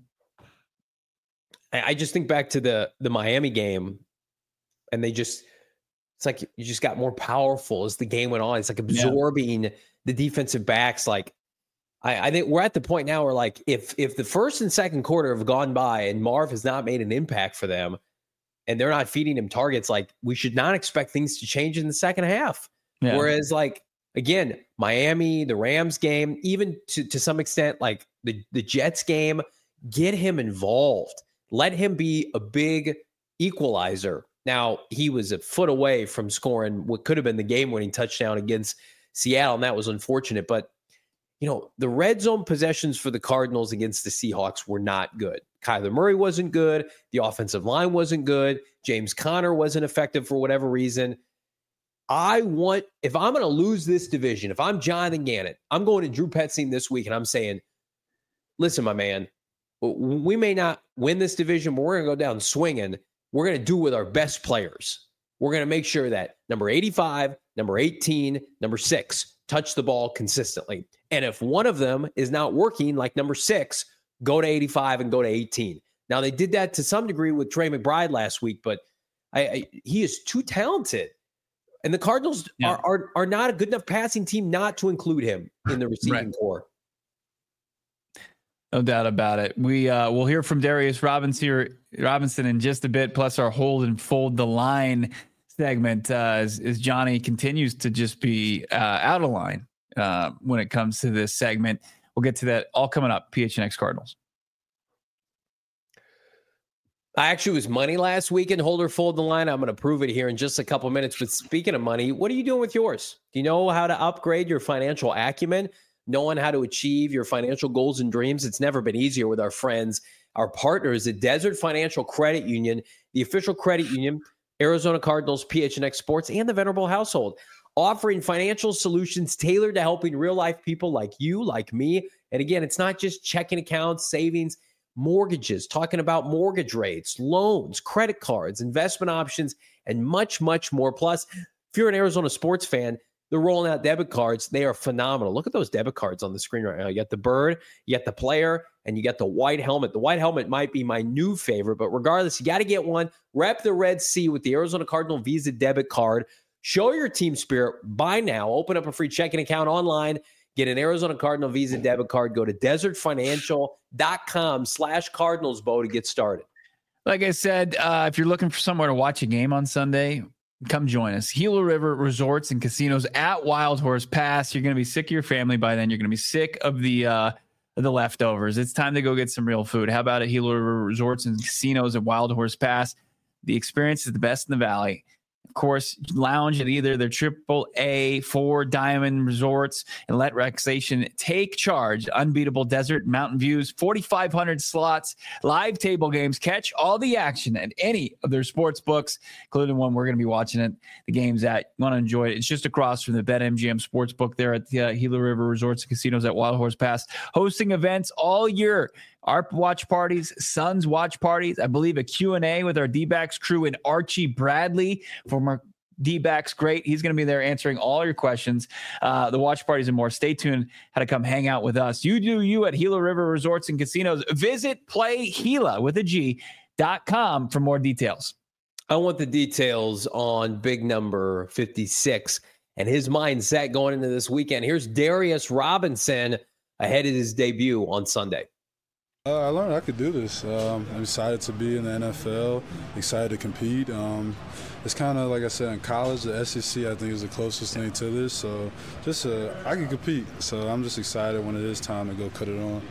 I, I just think back to the the Miami game, and they just it's like you just got more powerful as the game went on. It's like absorbing yeah. the defensive backs, like. I, I think we're at the point now where, like, if if the first and second quarter have gone by and Marv has not made an impact for them and they're not feeding him targets, like, we should not expect things to change in the second half. Yeah. Whereas, like, again, Miami, the Rams game, even to, to some extent, like, the, the Jets game, get him involved. Let him be a big equalizer. Now, he was a foot away from scoring what could have been the game-winning touchdown against Seattle, and that was unfortunate, but you know, the red zone possessions for the Cardinals against the Seahawks were not good. Kyler Murray wasn't good. The offensive line wasn't good. James Conner wasn't effective for whatever reason. I want, if I'm going to lose this division, if I'm Jonathan Gannon, I'm going to Drew Petzing this week and I'm saying, listen, my man, we may not win this division, but we're going to go down swinging. We're going to do it with our best players. We're going to make sure that number eighty-five, number eighteen, number six touch the ball consistently. And if one of them is not working, like number six, go to eighty-five and go to eighteen. Now, they did that to some degree with Trey McBride last week, but I, I, he is too talented. And the Cardinals yeah. are, are are not a good enough passing team not to include him in the receiving right. core. No doubt about it. We uh, we'll hear from Darius Robinson here, Robinson in just a bit, plus our hold and fold the line segment uh, as, as Johnny continues to just be uh, out of line uh, when it comes to this segment. We'll get to that all coming up. P H N X Cardinals. I actually was money last week in hold or fold the line. I'm going to prove it here in just a couple minutes. But speaking of money, what are you doing with yours? Do you know how to upgrade your financial acumen? Knowing how to achieve your financial goals and dreams? It's never been easier with our friends, our partners at Desert Financial Credit Union, the official credit union, Arizona Cardinals, P H N X Sports, and the Venerable household, offering financial solutions tailored to helping real-life people like you, like me. And again, it's not just checking accounts, savings, mortgages, talking about mortgage rates, loans, credit cards, investment options, and much, much more. Plus, if you're an Arizona sports fan, they're rolling out debit cards. They are phenomenal. Look at those debit cards on the screen right now. You got the bird, you got the player, and you got the white helmet. The white helmet might be my new favorite, but regardless, you got to get one. Rep the Red Sea with the Arizona Cardinal Visa debit card. Show your team spirit. Buy now. Open up a free checking account online. Get an Arizona Cardinal Visa debit card. Go to desertfinancial.com slash Cardinals, Bo, to get started. Like I said, uh, if you're looking for somewhere to watch a game on Sunday, come join us. Gila River Resorts and Casinos at Wild Horse Pass. You're going to be sick of your family by then. You're going to be sick of the uh, the leftovers. It's time to go get some real food. How about it? Gila River Resorts and Casinos at Wild Horse Pass. The experience is the best in the valley. Of course, lounge at either their triple A, four diamond resorts and let relaxation take charge. Unbeatable desert mountain views, forty-five hundred slots, live table games. Catch all the action at any of their sports books, including one we're going to be watching it. The games at you want to enjoy it. It's just across from the BetMGM Sportsbook there at the uh, Gila River Resorts and Casinos at Wild Horse Pass, hosting events all year. Our watch parties, Suns watch parties. I believe a Q and A with our D-backs crew and Archie Bradley, former D-backs great. He's going to be there answering all your questions. Uh, the watch parties and more. Stay tuned how to come hang out with us. You do you at Gila River Resorts and Casinos. Visit play Gila with a G dot com for more details. I want the details on big number fifty-six and his mindset going into this weekend. Here's Darius Robinson ahead of his debut on Sunday. Uh, I learned I could do this. Um, I'm excited to be in the N F L, excited to compete. Um, it's kind of like I said in college, the S E C I think is the closest thing to this. So just uh, I can compete. So I'm just excited when it is time to go cut it on.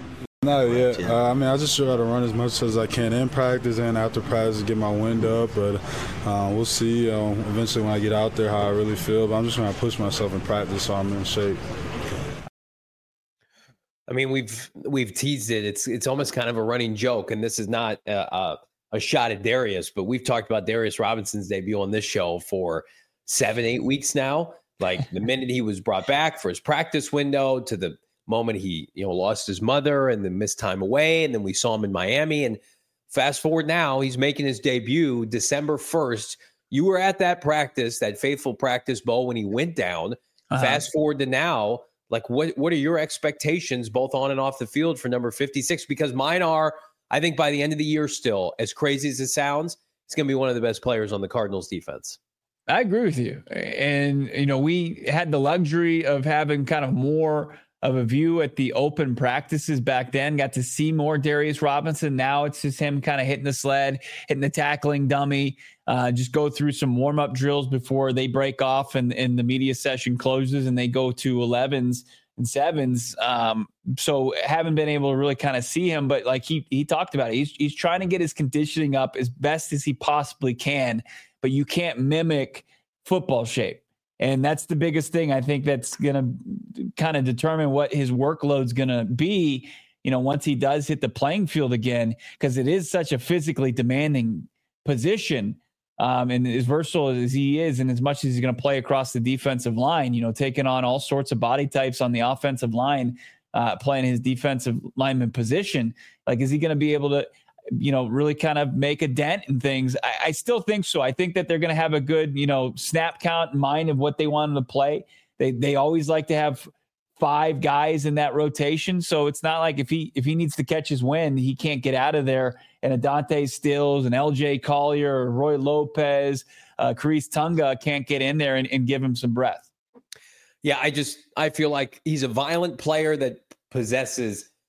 Not yet. Uh, I mean, I just try to run as much as I can in practice and after practice to get my wind up. But uh, we'll see uh, eventually when I get out there how I really feel. But I'm just trying to push myself in practice so I'm in shape. I mean, we've we've teased it. It's it's almost kind of a running joke, and this is not a, a, a shot at Darius, but we've talked about Darius Robinson's debut on this show for seven, eight weeks now. Like the minute he was brought back for his practice window to the moment he you know lost his mother and then missed time away, and then we saw him in Miami. And fast forward now, he's making his debut December first. You were at that practice, that faithful practice, Bo, when he went down. Uh-huh. Fast forward to now. Like, what, what are your expectations both on and off the field for number fifty-six? Because mine are, I think by the end of the year still, as crazy as it sounds, he's going to be one of the best players on the Cardinals defense. I agree with you. And, you know, we had the luxury of having kind of more of a view at the open practices back then, got to see more Darius Robinson. Now it's just him kind of hitting the sled, hitting the tackling dummy, uh, just go through some warm-up drills before they break off and, and the media session closes and they go to elevens and sevens. Um, so haven't been able to really kind of see him, but like he he talked about it, he's, he's trying to get his conditioning up as best as he possibly can, but you can't mimic football shape. And that's the biggest thing I think that's going to kind of determine what his workload's going to be, you know, once he does hit the playing field again, because it is such a physically demanding position. Um, and as versatile as he is, and as much as he's going to play across the defensive line, you know, taking on all sorts of body types on the offensive line, uh, playing his defensive lineman position, like, is he going to be able to, you know, really kind of make a dent in things? I, I still think so. I think that they're going to have a good, you know, snap count in mind of what they want him to play. They they always like to have five guys in that rotation. So it's not like if he if he needs to catch his wind, he can't get out of there. And a Dante Stills, and L J Collier, or Roy Lopez, uh, Khariz Tonga can't get in there and, and give him some breath. Yeah, I just I feel like he's a violent player that possesses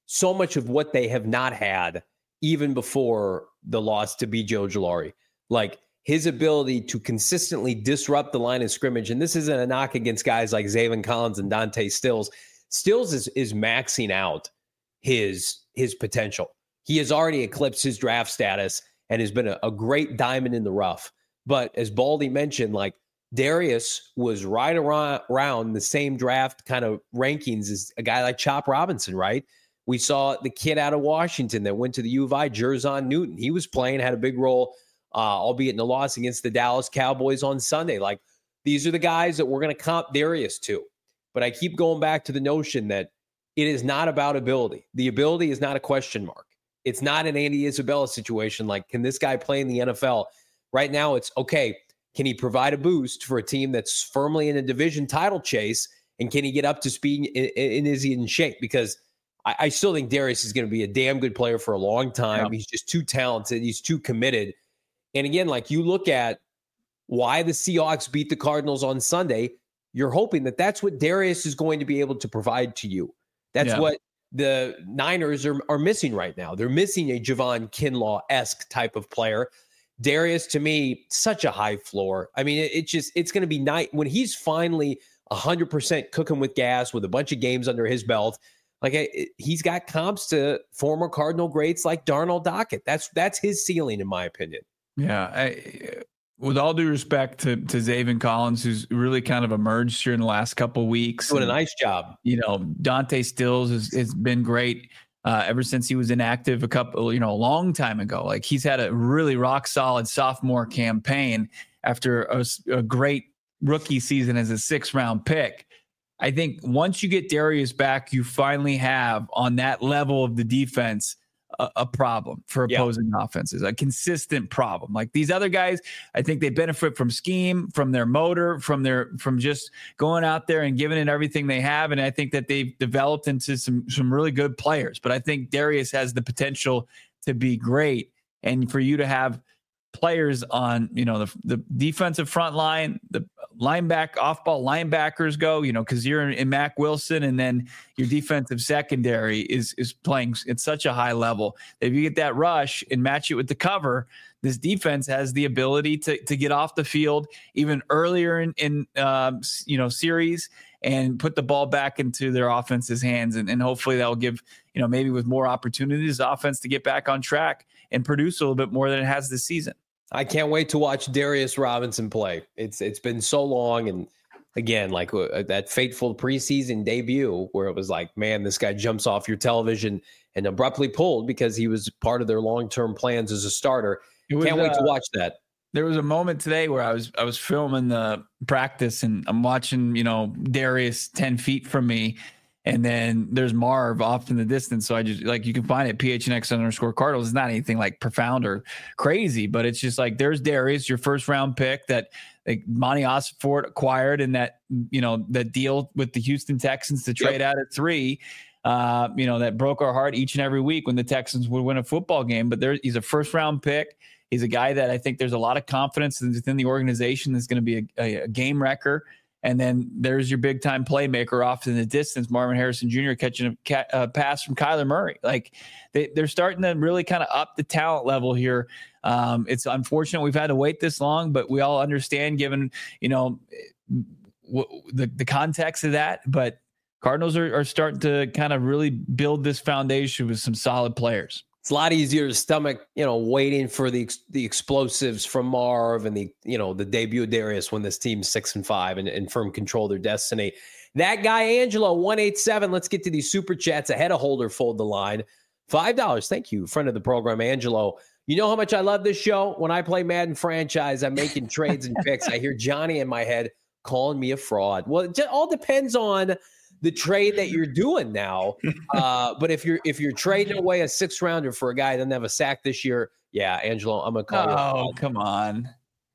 so much of what they have not had even before the loss to B J Ojulari. Like his ability to consistently disrupt the line of scrimmage. And this isn't a knock against guys like Zaven Collins and Dante Stills. Stills is, is maxing out his, his potential. He has already eclipsed his draft status and has been a, a great diamond in the rough. But as Baldy mentioned, like Darius was right around, around the same draft kind of rankings as a guy like Chop Robinson, right? We saw the kid out of Washington that went to the U of I, Jerzon Newton. He was playing, had a big role, uh, albeit in a loss against the Dallas Cowboys on Sunday. Like, these are the guys that we're going to comp Darius to. But I keep going back to the notion that it is not about ability. The ability is not a question mark. It's not an Andy Isabella situation. Like, can this guy play in the N F L? Right now, it's, okay, can he provide a boost for a team that's firmly in a division title chase? And can he get up to speed? And, and is he in shape? Because I, I still think Darius is going to be a damn good player for a long time. Yeah. He's just too talented. He's too committed. And again, like you look at why the Seahawks beat the Cardinals on Sunday, you're hoping that that's what Darius is going to be able to provide to you. That's yeah. what the Niners are, are missing right now. They're missing a Javon Kinlaw-esque type of player. Darius, to me, such a high floor. I mean, it, it just, it's going to be nice when he's finally one hundred percent cooking with gas with a bunch of games under his belt. Like, it, he's got comps to former Cardinal greats like Darnell Dockett. That's that's his ceiling, in my opinion. Yeah. I, with all due respect to, to Zaven Collins, who's really kind of emerged here in the last couple of weeks. Doing and, a nice job. You know, Dante Stills has, has been great. Uh, ever since he was inactive a couple, you know, a long time ago. Like, he's had a really rock solid sophomore campaign after a, a great rookie season as a sixth round pick. I think once you get Darius back, you finally have on that level of the defense a, a problem for opposing yeah. offenses, a consistent problem. Like these other guys, I think they benefit from scheme, from their motor, from their from just going out there and giving it everything they have. And I think that they've developed into some some really good players. But I think Darius has the potential to be great. And for you to have players on, you know, the the defensive front line, the linebacker, off-ball linebackers go, you know, because you're in, in Mack Wilson, and then your defensive secondary is is playing at such a high level. If you get that rush and match it with the cover, this defense has the ability to to get off the field even earlier in, in um, you know, series and put the ball back into their offense's hands. And, and hopefully that will give, you know, maybe with more opportunities, offense to get back on track and produce a little bit more than it has this season. I can't wait to watch Darius Robinson play. It's It's been so long. And again, like uh, that fateful preseason debut where it was like, man, this guy jumps off your television and abruptly pulled because he was part of their long-term plans as a starter. Was, can't wait uh, to watch that. There was a moment today where I was I was filming the practice and I'm watching, you know, Darius ten feet from me. And then there's Marv off in the distance. So I just, like, you can find it, P H N X underscore Cardinals. It's not anything like profound or crazy, but it's just like, there's Darius, your first round pick that like Monty Osford acquired in that, you know, that deal with the Houston Texans to trade yep. out at three. Uh, you know, that broke our heart each and every week when the Texans would win a football game. But there, he's a first round pick. He's a guy that I think there's a lot of confidence within the organization that's going to be a, a, a game wrecker. And then there's your big time playmaker off in the distance, Marvin Harrison Junior catching a, ca- a pass from Kyler Murray. Like they, they're starting to really kind of up the talent level here. Um, it's unfortunate we've had to wait this long, but we all understand given, you know, w- the, the context of that. But Cardinals are, are starting to kind of really build this foundation with some solid players. It's a lot easier to stomach, you know, waiting for the the explosives from Marv and the, you know, the debut of Darius when this team's six and five and, and firm control their destiny. That guy, Angelo, one eight seven. Let's get to these super chats ahead of Holder Fold the Line. five dollars. Thank you, friend of the program, Angelo. You know how much I love this show? When I play Madden franchise, I'm making trades and picks. I hear Johnny in my head calling me a fraud. Well, it just all depends on the trade that you're doing now. Uh, but if you're if you're trading away a six rounder for a guy that doesn't have a sack this year, yeah, Angelo, I'm gonna call oh, you. Oh, come on,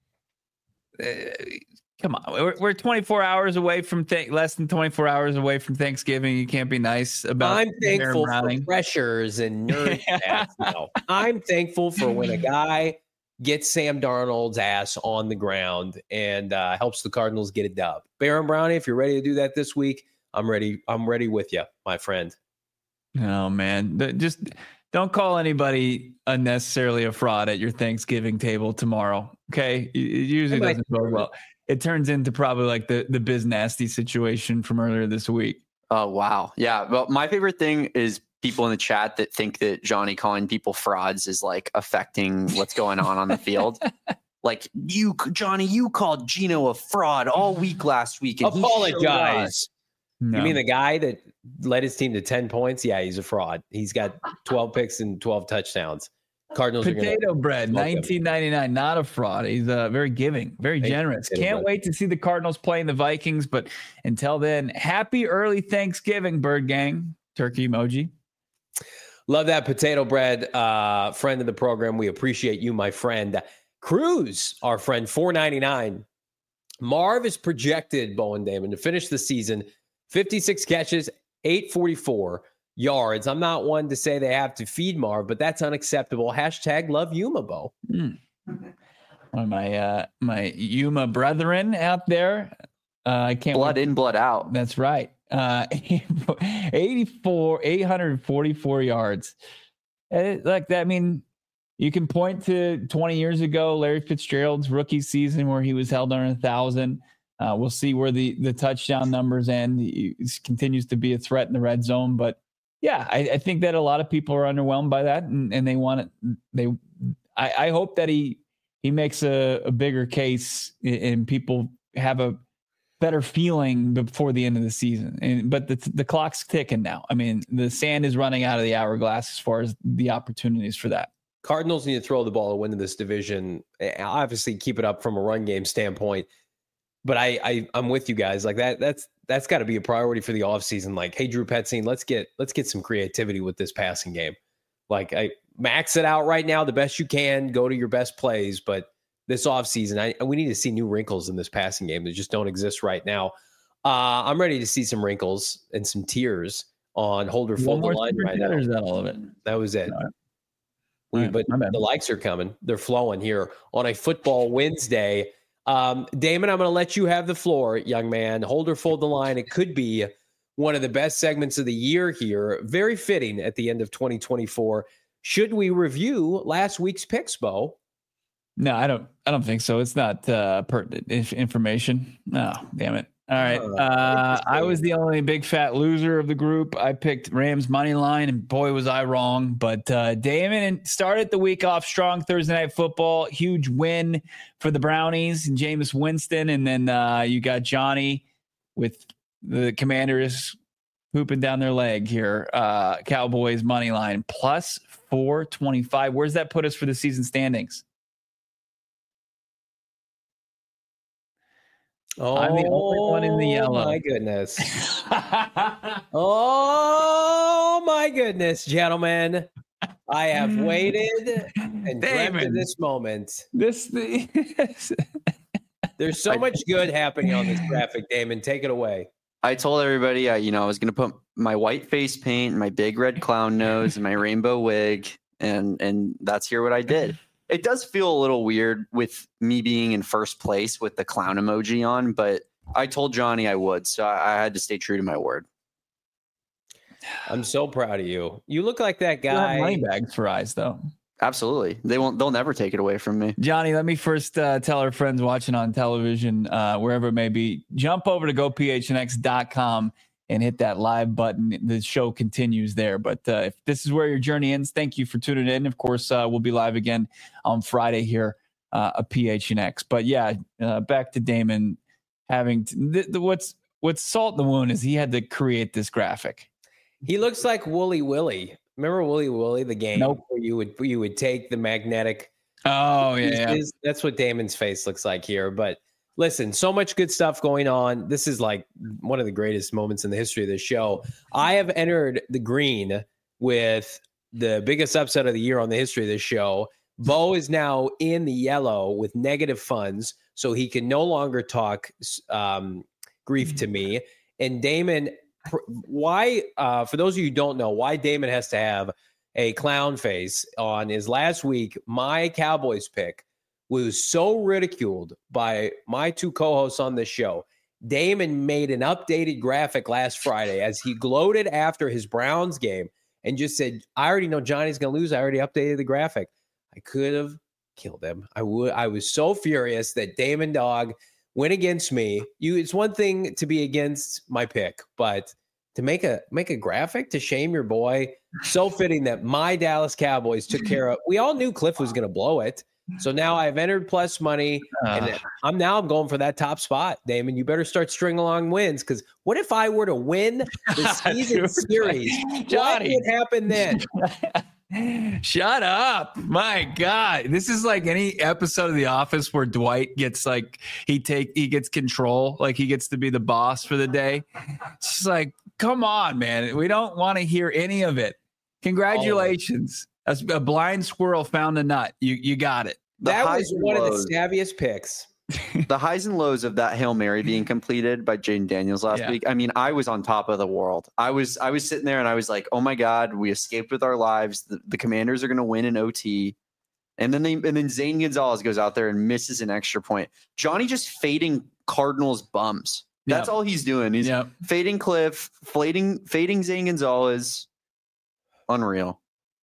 uh, come on. We're, we're twenty-four hours away from th- less than twenty-four hours away from Thanksgiving. You can't be nice about. I'm thankful for pressures and nerd chats. No, I'm thankful for when a guy gets Sam Darnold's ass on the ground and uh, helps the Cardinals get a dub. Baron Brownie, if you're ready to do that this week, I'm ready. I'm ready with you, my friend. Oh man, The- just don't call anybody unnecessarily a fraud at your Thanksgiving table tomorrow. Okay, it it usually might doesn't go well. It turns into probably like the the Biz Nasty situation from earlier this week. Oh, wow. Yeah. Well, my favorite thing is people in the chat that think that Johnny calling people frauds is like affecting what's going on on the field. Like you, Johnny, you called Gino a fraud all week last week. And apologize. No. You mean the guy that led his team to ten points? Yeah, he's a fraud. He's got twelve picks and twelve touchdowns. Cardinals Potato are gonna bread, nineteen ninety-nine, not a fraud. He's uh, very giving, very Thank you, generous. Potato Can't bread. wait to see the Cardinals playing the Vikings. But until then, happy early Thanksgiving, Bird Gang. Turkey emoji. Love that potato bread, uh, friend of the program. We appreciate you, my friend. Cruz, our friend, four ninety-nine. Marv is projected, Bowen Damon, to finish the season fifty-six catches, eight forty-four yards. I'm not one to say they have to feed Marv, but that's unacceptable. Hashtag love Yuma, Bo. Mm. One of my uh, my Yuma brethren out there. Uh, I can't Blood wait. in, blood out. That's right. Uh, eighty-four, eight forty-four yards. Uh, Like that. I mean, you can point to twenty years ago, Larry Fitzgerald's rookie season where he was held under a thousand. Uh, we'll see where the, the touchdown numbers end. He continues to be a threat in the red zone, but yeah, I, I think that a lot of people are underwhelmed by that, and, and they want it. They, I, I hope that he he makes a, a bigger case, and people have a better feeling before the end of the season. And but the the clock's ticking now. I mean, the sand is running out of the hourglass as far as the opportunities for that. Cardinals need to throw the ball to win in this division. Obviously, keep it up from a run game standpoint. But I, I I'm with you guys. Like that. That's that's got to be a priority for the offseason. Like, hey, Drew Petzing, let's get let's get some creativity with this passing game. Like, I max it out right now the best you can. Go to your best plays, but this offseason, I we need to see new wrinkles in this passing game that just don't exist right now. Uh, I'm ready to see some wrinkles and some tears on Holder One Fold the more line super right chat, now. or is that all of it? That was it. All right. We, All right, but my bad. the likes are coming. They're flowing here on a football Wednesday. Um, Damon, I'm going to let you have the floor, young man. Hold or fold the line. It could be one of the best segments of the year here. Very fitting at the end of twenty twenty-four. Should we review last week's picks, Bo? No, I don't. I don't think so. It's not uh, pertinent inf- information. No, damn it. All right. Oh, Uh, I was interesting. the only big fat loser of the group. I picked Rams money line, and boy was I wrong. But uh, Damon started the week off strong. Thursday Night Football, huge win for the Brownies and Jameis Winston, and then uh, you got Johnny with the Commanders pooping down their leg here. Uh, Cowboys money line plus four twenty-five. Where's that put us for the season standings? Oh, I'm the only one in the yellow. My goodness. Oh, my goodness, gentlemen. I have waited and dreamt of Damon. this moment. This the There's so much good happening on this graphic, Damon. Take it away. I told everybody, uh, you know, I was going to put my white face paint, my big red clown nose, and my rainbow wig, and and that's here what I did. It does feel a little weird with me being in first place with the clown emoji on, but I told Johnny I would, so I, I had to stay true to my word. I'm so proud of you. You look like that you have guy. money bags for eyes, though. Absolutely, they won't. They'll never take it away from me. Johnny, let me first uh, tell our friends watching on television, uh, wherever it may be, jump over to go p h n x dot com and hit that live button. The show continues there. But uh, if this is where your journey ends, thank you for tuning in. Of course, uh, we'll be live again on Friday here uh, at P H N X. But yeah, uh, back to Damon having to, the, the, what's what's salt in the wound is he had to create this graphic. He looks like Wooly Willy. Remember Wooly Willy, the game Nope. where you would you would take the magnetic. Oh yeah, yeah. pieces? That's what Damon's face looks like here. But listen, so much good stuff going on. This is like one of the greatest moments in the history of this show. I have entered the green with the biggest upset of the year on the history of this show. Bo is now in the yellow with negative funds, so he can no longer talk um, grief to me. And Damon, why, uh, for those of you who don't know, why Damon has to have a clown face on is last week, my Cowboys pick was so ridiculed by my two co-hosts on this show. Damon made an updated graphic last Friday as he gloated after his Browns game and just said, I already know Johnny's going to lose. I already updated the graphic. I could have killed him. I would. I was so furious that Damon Dog went against me. You, it's one thing to be against my pick, but to make a make a graphic to shame your boy, so fitting that my Dallas Cowboys took care of. We all knew Cliff was going to blow it. So now I've entered plus money, and I'm now I'm going for that top spot, Damon. You better start stringing along wins, because what if I were to win the season series? Johnny, what would happen then? Shut up. My God. This is like any episode of The Office where Dwight gets like he take he gets control, like he gets to be the boss for the day. It's just like, come on, man. We don't want to hear any of it. Congratulations. A, a blind squirrel found a nut. You you got it. The that was one lows, of the savviest picks. The highs and lows of that Hail Mary being completed by Jaden Daniels last yeah. week. I mean, I was on top of the world. I was I was sitting there and I was like, oh my God, we escaped with our lives. The, the Commanders are going to win in O T. And then they and then Zane Gonzalez goes out there and misses an extra point. Johnny just fading Cardinals bums. That's yep. all he's doing. He's yep. fading Cliff, fading fading Zane Gonzalez. Unreal.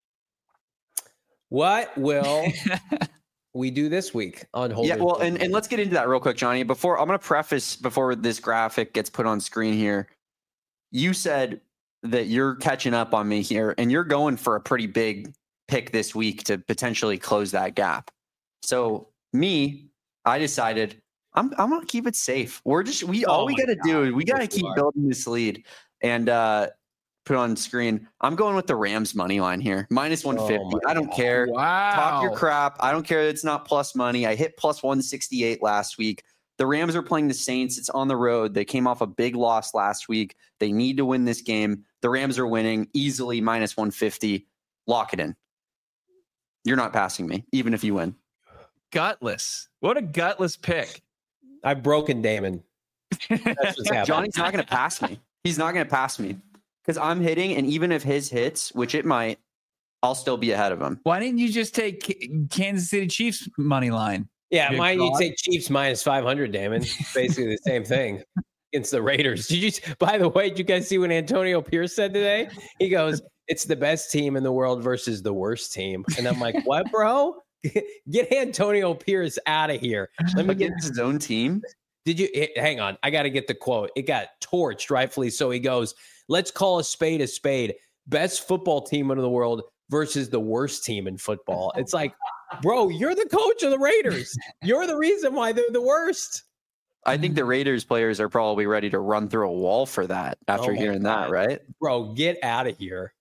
What will we do this week on Hold? Yeah, well, and, and let's get into that real quick, Johnny. Before I'm going to preface before this graphic gets put on screen here. You said that you're catching up on me here, and you're going for a pretty big pick this week to potentially close that gap. So me, I decided I'm I'm going to keep it safe. We're just we all oh we got to do we got to keep building this lead and uh, put on screen. I'm going with the Rams money line here, minus one fifty. Oh I don't God. care. Wow. Talk your crap. I don't care. It's not plus money. I hit plus one sixty-eight last week. The Rams are playing the Saints. It's on the road. They came off a big loss last week. They need to win this game. The Rams are winning easily, minus one fifty. Lock it in. You're not passing me, even if you win. Gutless. What a gutless pick. I've broken Damon. That's what's happening. Johnny's not going to pass me. He's not going to pass me because I'm hitting, and even if his hits, which it might, I'll still be ahead of him. Why didn't you just take Kansas City Chiefs money line? Yeah, why you take Chiefs minus five hundred, Damon? Basically the same thing against the Raiders. Did you? By the way, did you guys see what Antonio Pierce said today? He goes, "It's the best team in the world versus the worst team," and I'm like, "What, bro? Get Antonio Pierce out of here." Let me get his own team. Did you? It, hang on, I got to get the quote. It got torched, rightfully so. He goes, "Let's call a spade a spade. Best football team in the world versus the worst team in football." It's like, bro, you're the coach of the Raiders. You're the reason why they're the worst. I think the Raiders players are probably ready to run through a wall for that after oh hearing God. that, right? Bro, get out of here.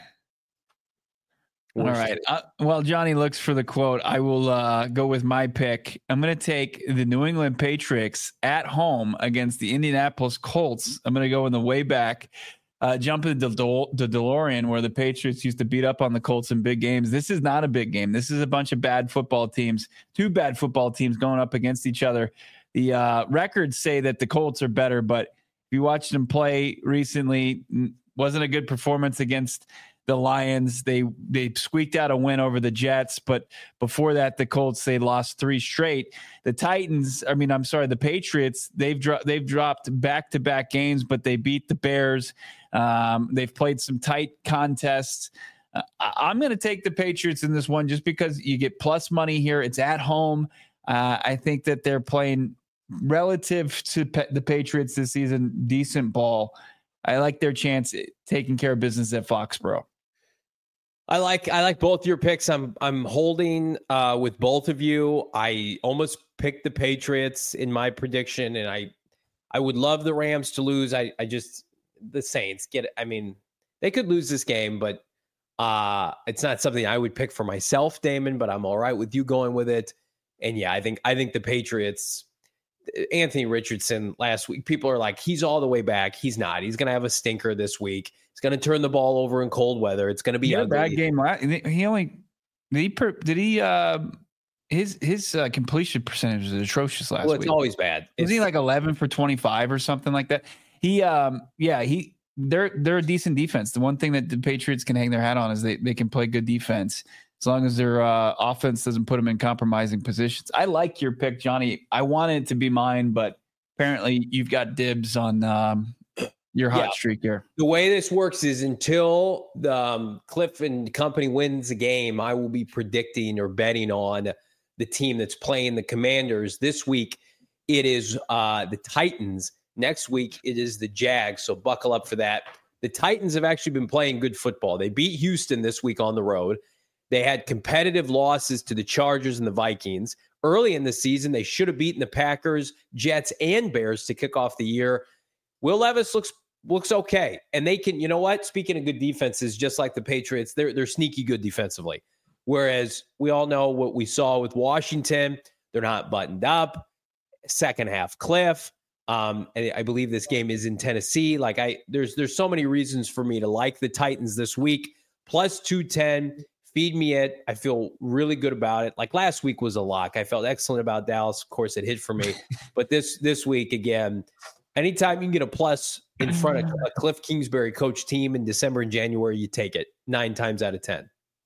All right. Uh, while Johnny looks for the quote, I will uh, go with my pick. I'm going to take the New England Patriots at home against the Indianapolis Colts. I'm going to go in the way back. Uh, jump into the, the DeLorean where the Patriots used to beat up on the Colts in big games. This is not a big game. This is a bunch of bad football teams, two bad football teams going up against each other. The uh, records say that the Colts are better, but if you watched them play recently, wasn't a good performance against the Lions. They they squeaked out a win over the Jets, but before that, the Colts, they lost three straight. The Titans, I mean, I'm sorry, the Patriots, they've dro- they've dropped back-to-back games, but they beat the Bears. Um, they've played some tight contests. Uh, I'm going to take the Patriots in this one just because you get plus money here. It's at home. Uh, I think that they're playing relative to pe- the Patriots this season, decent ball. I like their chance taking care of business at Foxborough. I like I like both your picks. I'm I'm holding uh, with both of you. I almost picked the Patriots in my prediction, and I I would love the Rams to lose. I I just the Saints get it. I mean, they could lose this game, but uh, it's not something I would pick for myself, Damon. But I'm all right with you going with it. And yeah, I think I think the Patriots. Anthony Richardson last week, people are like, he's all the way back. He's not. He's going to have a stinker this week. He's going to turn the ball over in cold weather. It's going to be he a bad game. He only did he did he uh, his his uh, completion percentage was atrocious last week. Well, it's week. always bad. Was it's, he like eleven for twenty-five or something like that? He um yeah he they're they're a decent defense. The one thing that the Patriots can hang their hat on is they they can play good defense. As long as their uh, offense doesn't put them in compromising positions. I like your pick, Johnny. I wanted it to be mine, but apparently you've got dibs on um, your hot yeah. streak here. The way this works is until the um, Cliff and company wins a game, I will be predicting or betting on the team that's playing the Commanders. This week, it is uh, the Titans. Next week, it is the Jags. So buckle up for that. The Titans have actually been playing good football. They beat Houston this week on the road. They had competitive losses to the Chargers and the Vikings. Early in the season, they should have beaten the Packers, Jets, and Bears to kick off the year. Will Levis looks looks okay. And they can, you know what? Speaking of good defenses, just like the Patriots, they're they're sneaky good defensively. Whereas we all know what we saw with Washington. They're not buttoned up. Second half cliff. Um, and I believe this game is in Tennessee. Like I, there's there's so many reasons for me to like the Titans this week. Plus two ten. Feed me it. I feel really good about it. Like last week was a lock. I felt excellent about Dallas. Of course, it hit for me. But this this week, again, anytime you can get a plus in front of a Cliff Kingsbury coach team in December and January, you take it nine times out of ten.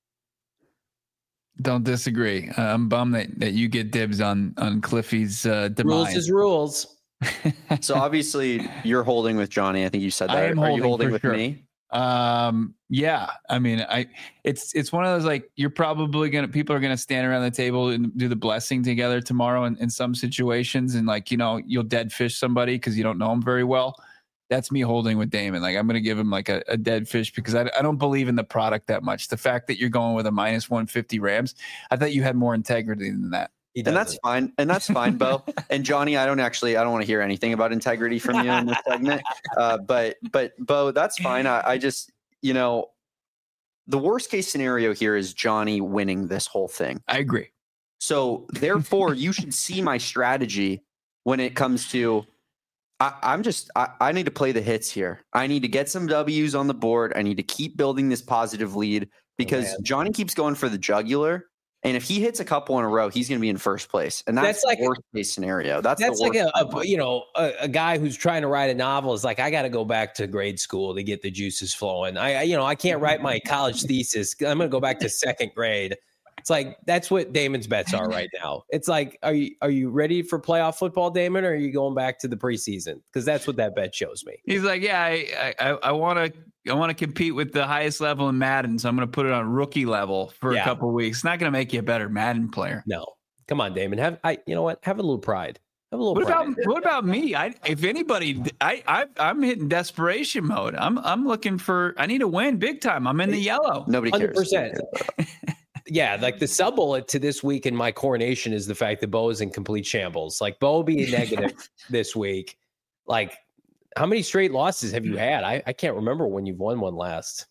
Don't disagree. Uh, I'm bummed that, that you get dibs on on Cliffy's uh, demise. Rules is rules. So obviously you're holding with Johnny. I think you said that. I am Are holding you holding with sure. me? Um, yeah, I mean, I, it's, it's one of those, like, you're probably going to, people are going to stand around the table and do the blessing together tomorrow in, in some situations. And like, you know, you'll dead fish somebody cause you don't know him very well. That's me holding with Damon. Like, I'm going to give him like a, a dead fish because I, I don't believe in the product that much. The fact that you're going with a minus one fifty Rams, I thought you had more integrity than that. And that's fine. And that's fine, Bo. And Johnny, I don't actually, I don't want to hear anything about integrity from you in this segment. Uh, but, but Bo, that's fine. I, I just, you know, the worst case scenario here is Johnny winning this whole thing. I agree. So therefore you should see my strategy when it comes to, I, I'm just, I, I need to play the hits here. I need to get some W's on the board. I need to keep building this positive lead because oh, Johnny keeps going for the jugular. And if he hits a couple in a row, he's going to be in first place. And that's, that's like the worst case scenario. That's, that's the worst like a, a you know, a, a guy who's trying to write a novel is like, I got to go back to grade school to get the juices flowing. I, I you know, I can't write my college thesis. I'm going to go back to second grade. It's like, that's what Damon's bets are right now. It's like, are you, are you ready for playoff football, Damon? Or are you going back to the preseason? Because that's what that bet shows me. He's like, yeah, I, I, I want to, I want to compete with the highest level in Madden. So I'm going to put it on rookie level for yeah. a couple of weeks. It's not going to make you a better Madden player. No, come on, Damon. Have I, you know what? Have a little pride. Have a little what pride. About, what about me? I, if anybody, I, I, I'm hitting desperation mode. I'm, I'm looking for, I need to win big time. I'm in the yellow. Nobody cares. one hundred percent. Yeah, like the sub bullet to this week in my coronation is the fact that Bo is in complete shambles. Like Bo being negative this week. Like, how many straight losses have you had? I, I can't remember when you've won one last.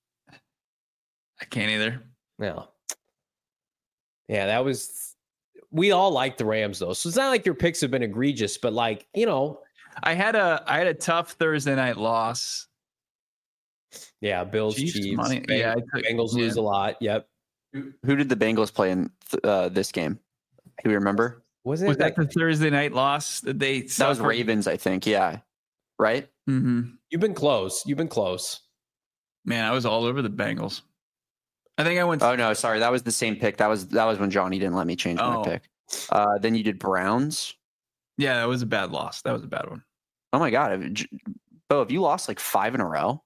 I can't either. No. Yeah, that was. We all like the Rams though, so it's not like your picks have been egregious, but like you know, I had a I had a tough Thursday night loss. Yeah, Bills, Chiefs, Chiefs, money. Bengals, yeah, I took, Bengals yeah. lose a lot. Yep. Who did the Bengals play in uh, this game? Do we remember? Was it was that like, the Thursday night loss that they? That suffered? was Ravens, I think. Yeah, right. Mm-hmm. You've been close. You've been close. Man, I was all over the Bengals. I think I went. Oh no, sorry, that was the same pick. That was that was when Johnny didn't let me change oh. my pick. Uh, then you did Browns. Yeah, that was a bad loss. That was a bad one. Oh my god, Bo, have you lost like five in a row?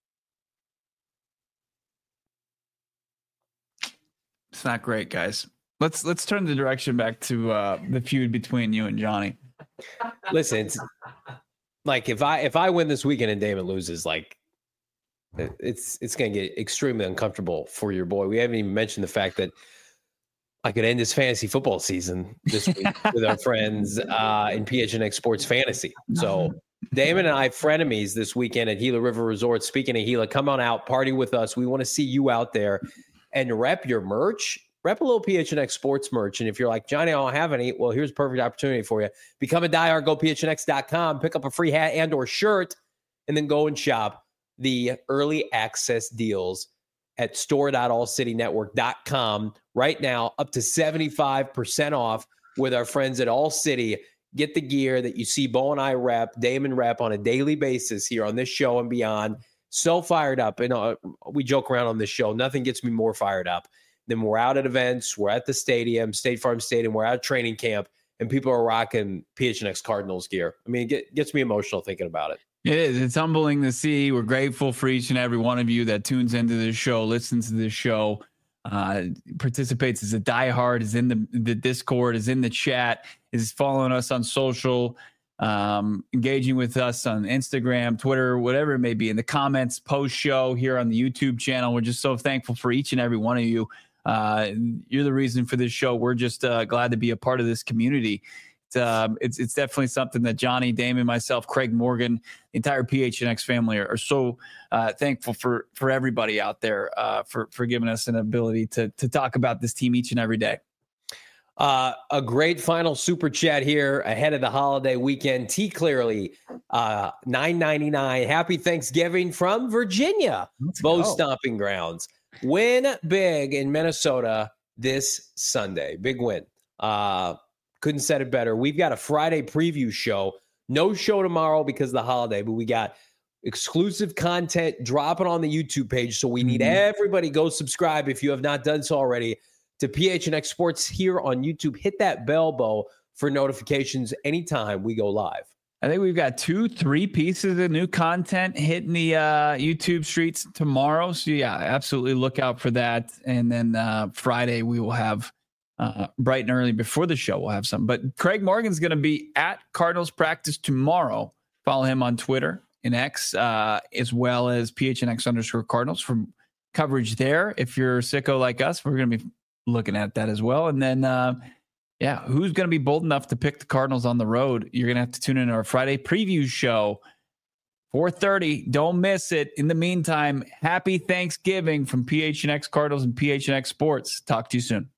It's not great, guys. Let's let's turn the direction back to uh, the feud between you and Johnny. Listen, it's, like if I if I win this weekend and Damon loses, like it's it's going to get extremely uncomfortable for your boy. We haven't even mentioned the fact that I could end his fantasy football season this week with our friends uh, in P H N X Sports Fantasy. So Damon and I frenemies this weekend at Gila River Resort. Speaking of Gila, come on out, party with us. We want to see you out there. And rep your merch, rep a little P H N X sports merch. And if you're like, Johnny, I don't have any, well, here's a perfect opportunity for you. Become a diehard, go P H N X dot com, pick up a free hat and or shirt, and then go and shop the early access deals at store dot all city network dot com. Right now, up to seventy-five percent off with our friends at All City. Get the gear that you see Bo and I rep, Damon rep on a daily basis here on this show and beyond. So fired up. And uh, we joke around on this show. Nothing gets me more fired up than we're out at events. We're at the stadium, State Farm Stadium. We're at training camp, and people are rocking P H N X Cardinals gear. I mean, it get, gets me emotional thinking about it. It is. It's humbling to see. We're grateful for each and every one of you that tunes into this show, listens to this show, uh, participates as a diehard, is in the, the Discord, is in the chat, is following us on social, um, engaging with us on Instagram, Twitter, whatever it may be, in the comments, post show here on the YouTube channel. We're just so thankful for each and every one of you. Uh, you're the reason for this show. We're just uh, glad to be a part of this community. It's, um, it's it's definitely something that Johnny, Damon, myself, Craig Morgan, the entire P H N X family are, are so uh, thankful for for everybody out there uh, for for giving us an ability to to talk about this team each and every day. Uh, a great final super chat here ahead of the holiday weekend. T Clearly, uh, nine ninety-nine. Happy Thanksgiving from Virginia, Bo Stomping Grounds. Win big in Minnesota this Sunday. Big win. Uh, couldn't said it better. We've got a Friday preview show. No show tomorrow because of the holiday, but we got exclusive content dropping on the YouTube page. So we need mm-hmm. everybody go subscribe if you have not done so already to P H N X Sports here on YouTube. Hit that bell, Bo, for notifications anytime we go live. I think we've got two, three pieces of new content hitting the uh, YouTube streets tomorrow. So, yeah, absolutely look out for that. And then uh, Friday we will have uh, bright and early before the show. We'll have some. But Craig Morgan's going to be at Cardinals practice tomorrow. Follow him on Twitter and X, uh, as well as P H N X underscore Cardinals for coverage there. If you're a sicko like us, we're going to be looking at that as well. And then, uh, yeah, who's going to be bold enough to pick the Cardinals on the road? You're going to have to tune in to our Friday preview show, four thirty. Don't miss it. In the meantime, happy Thanksgiving from P H N X Cardinals and P H N X Sports. Talk to you soon.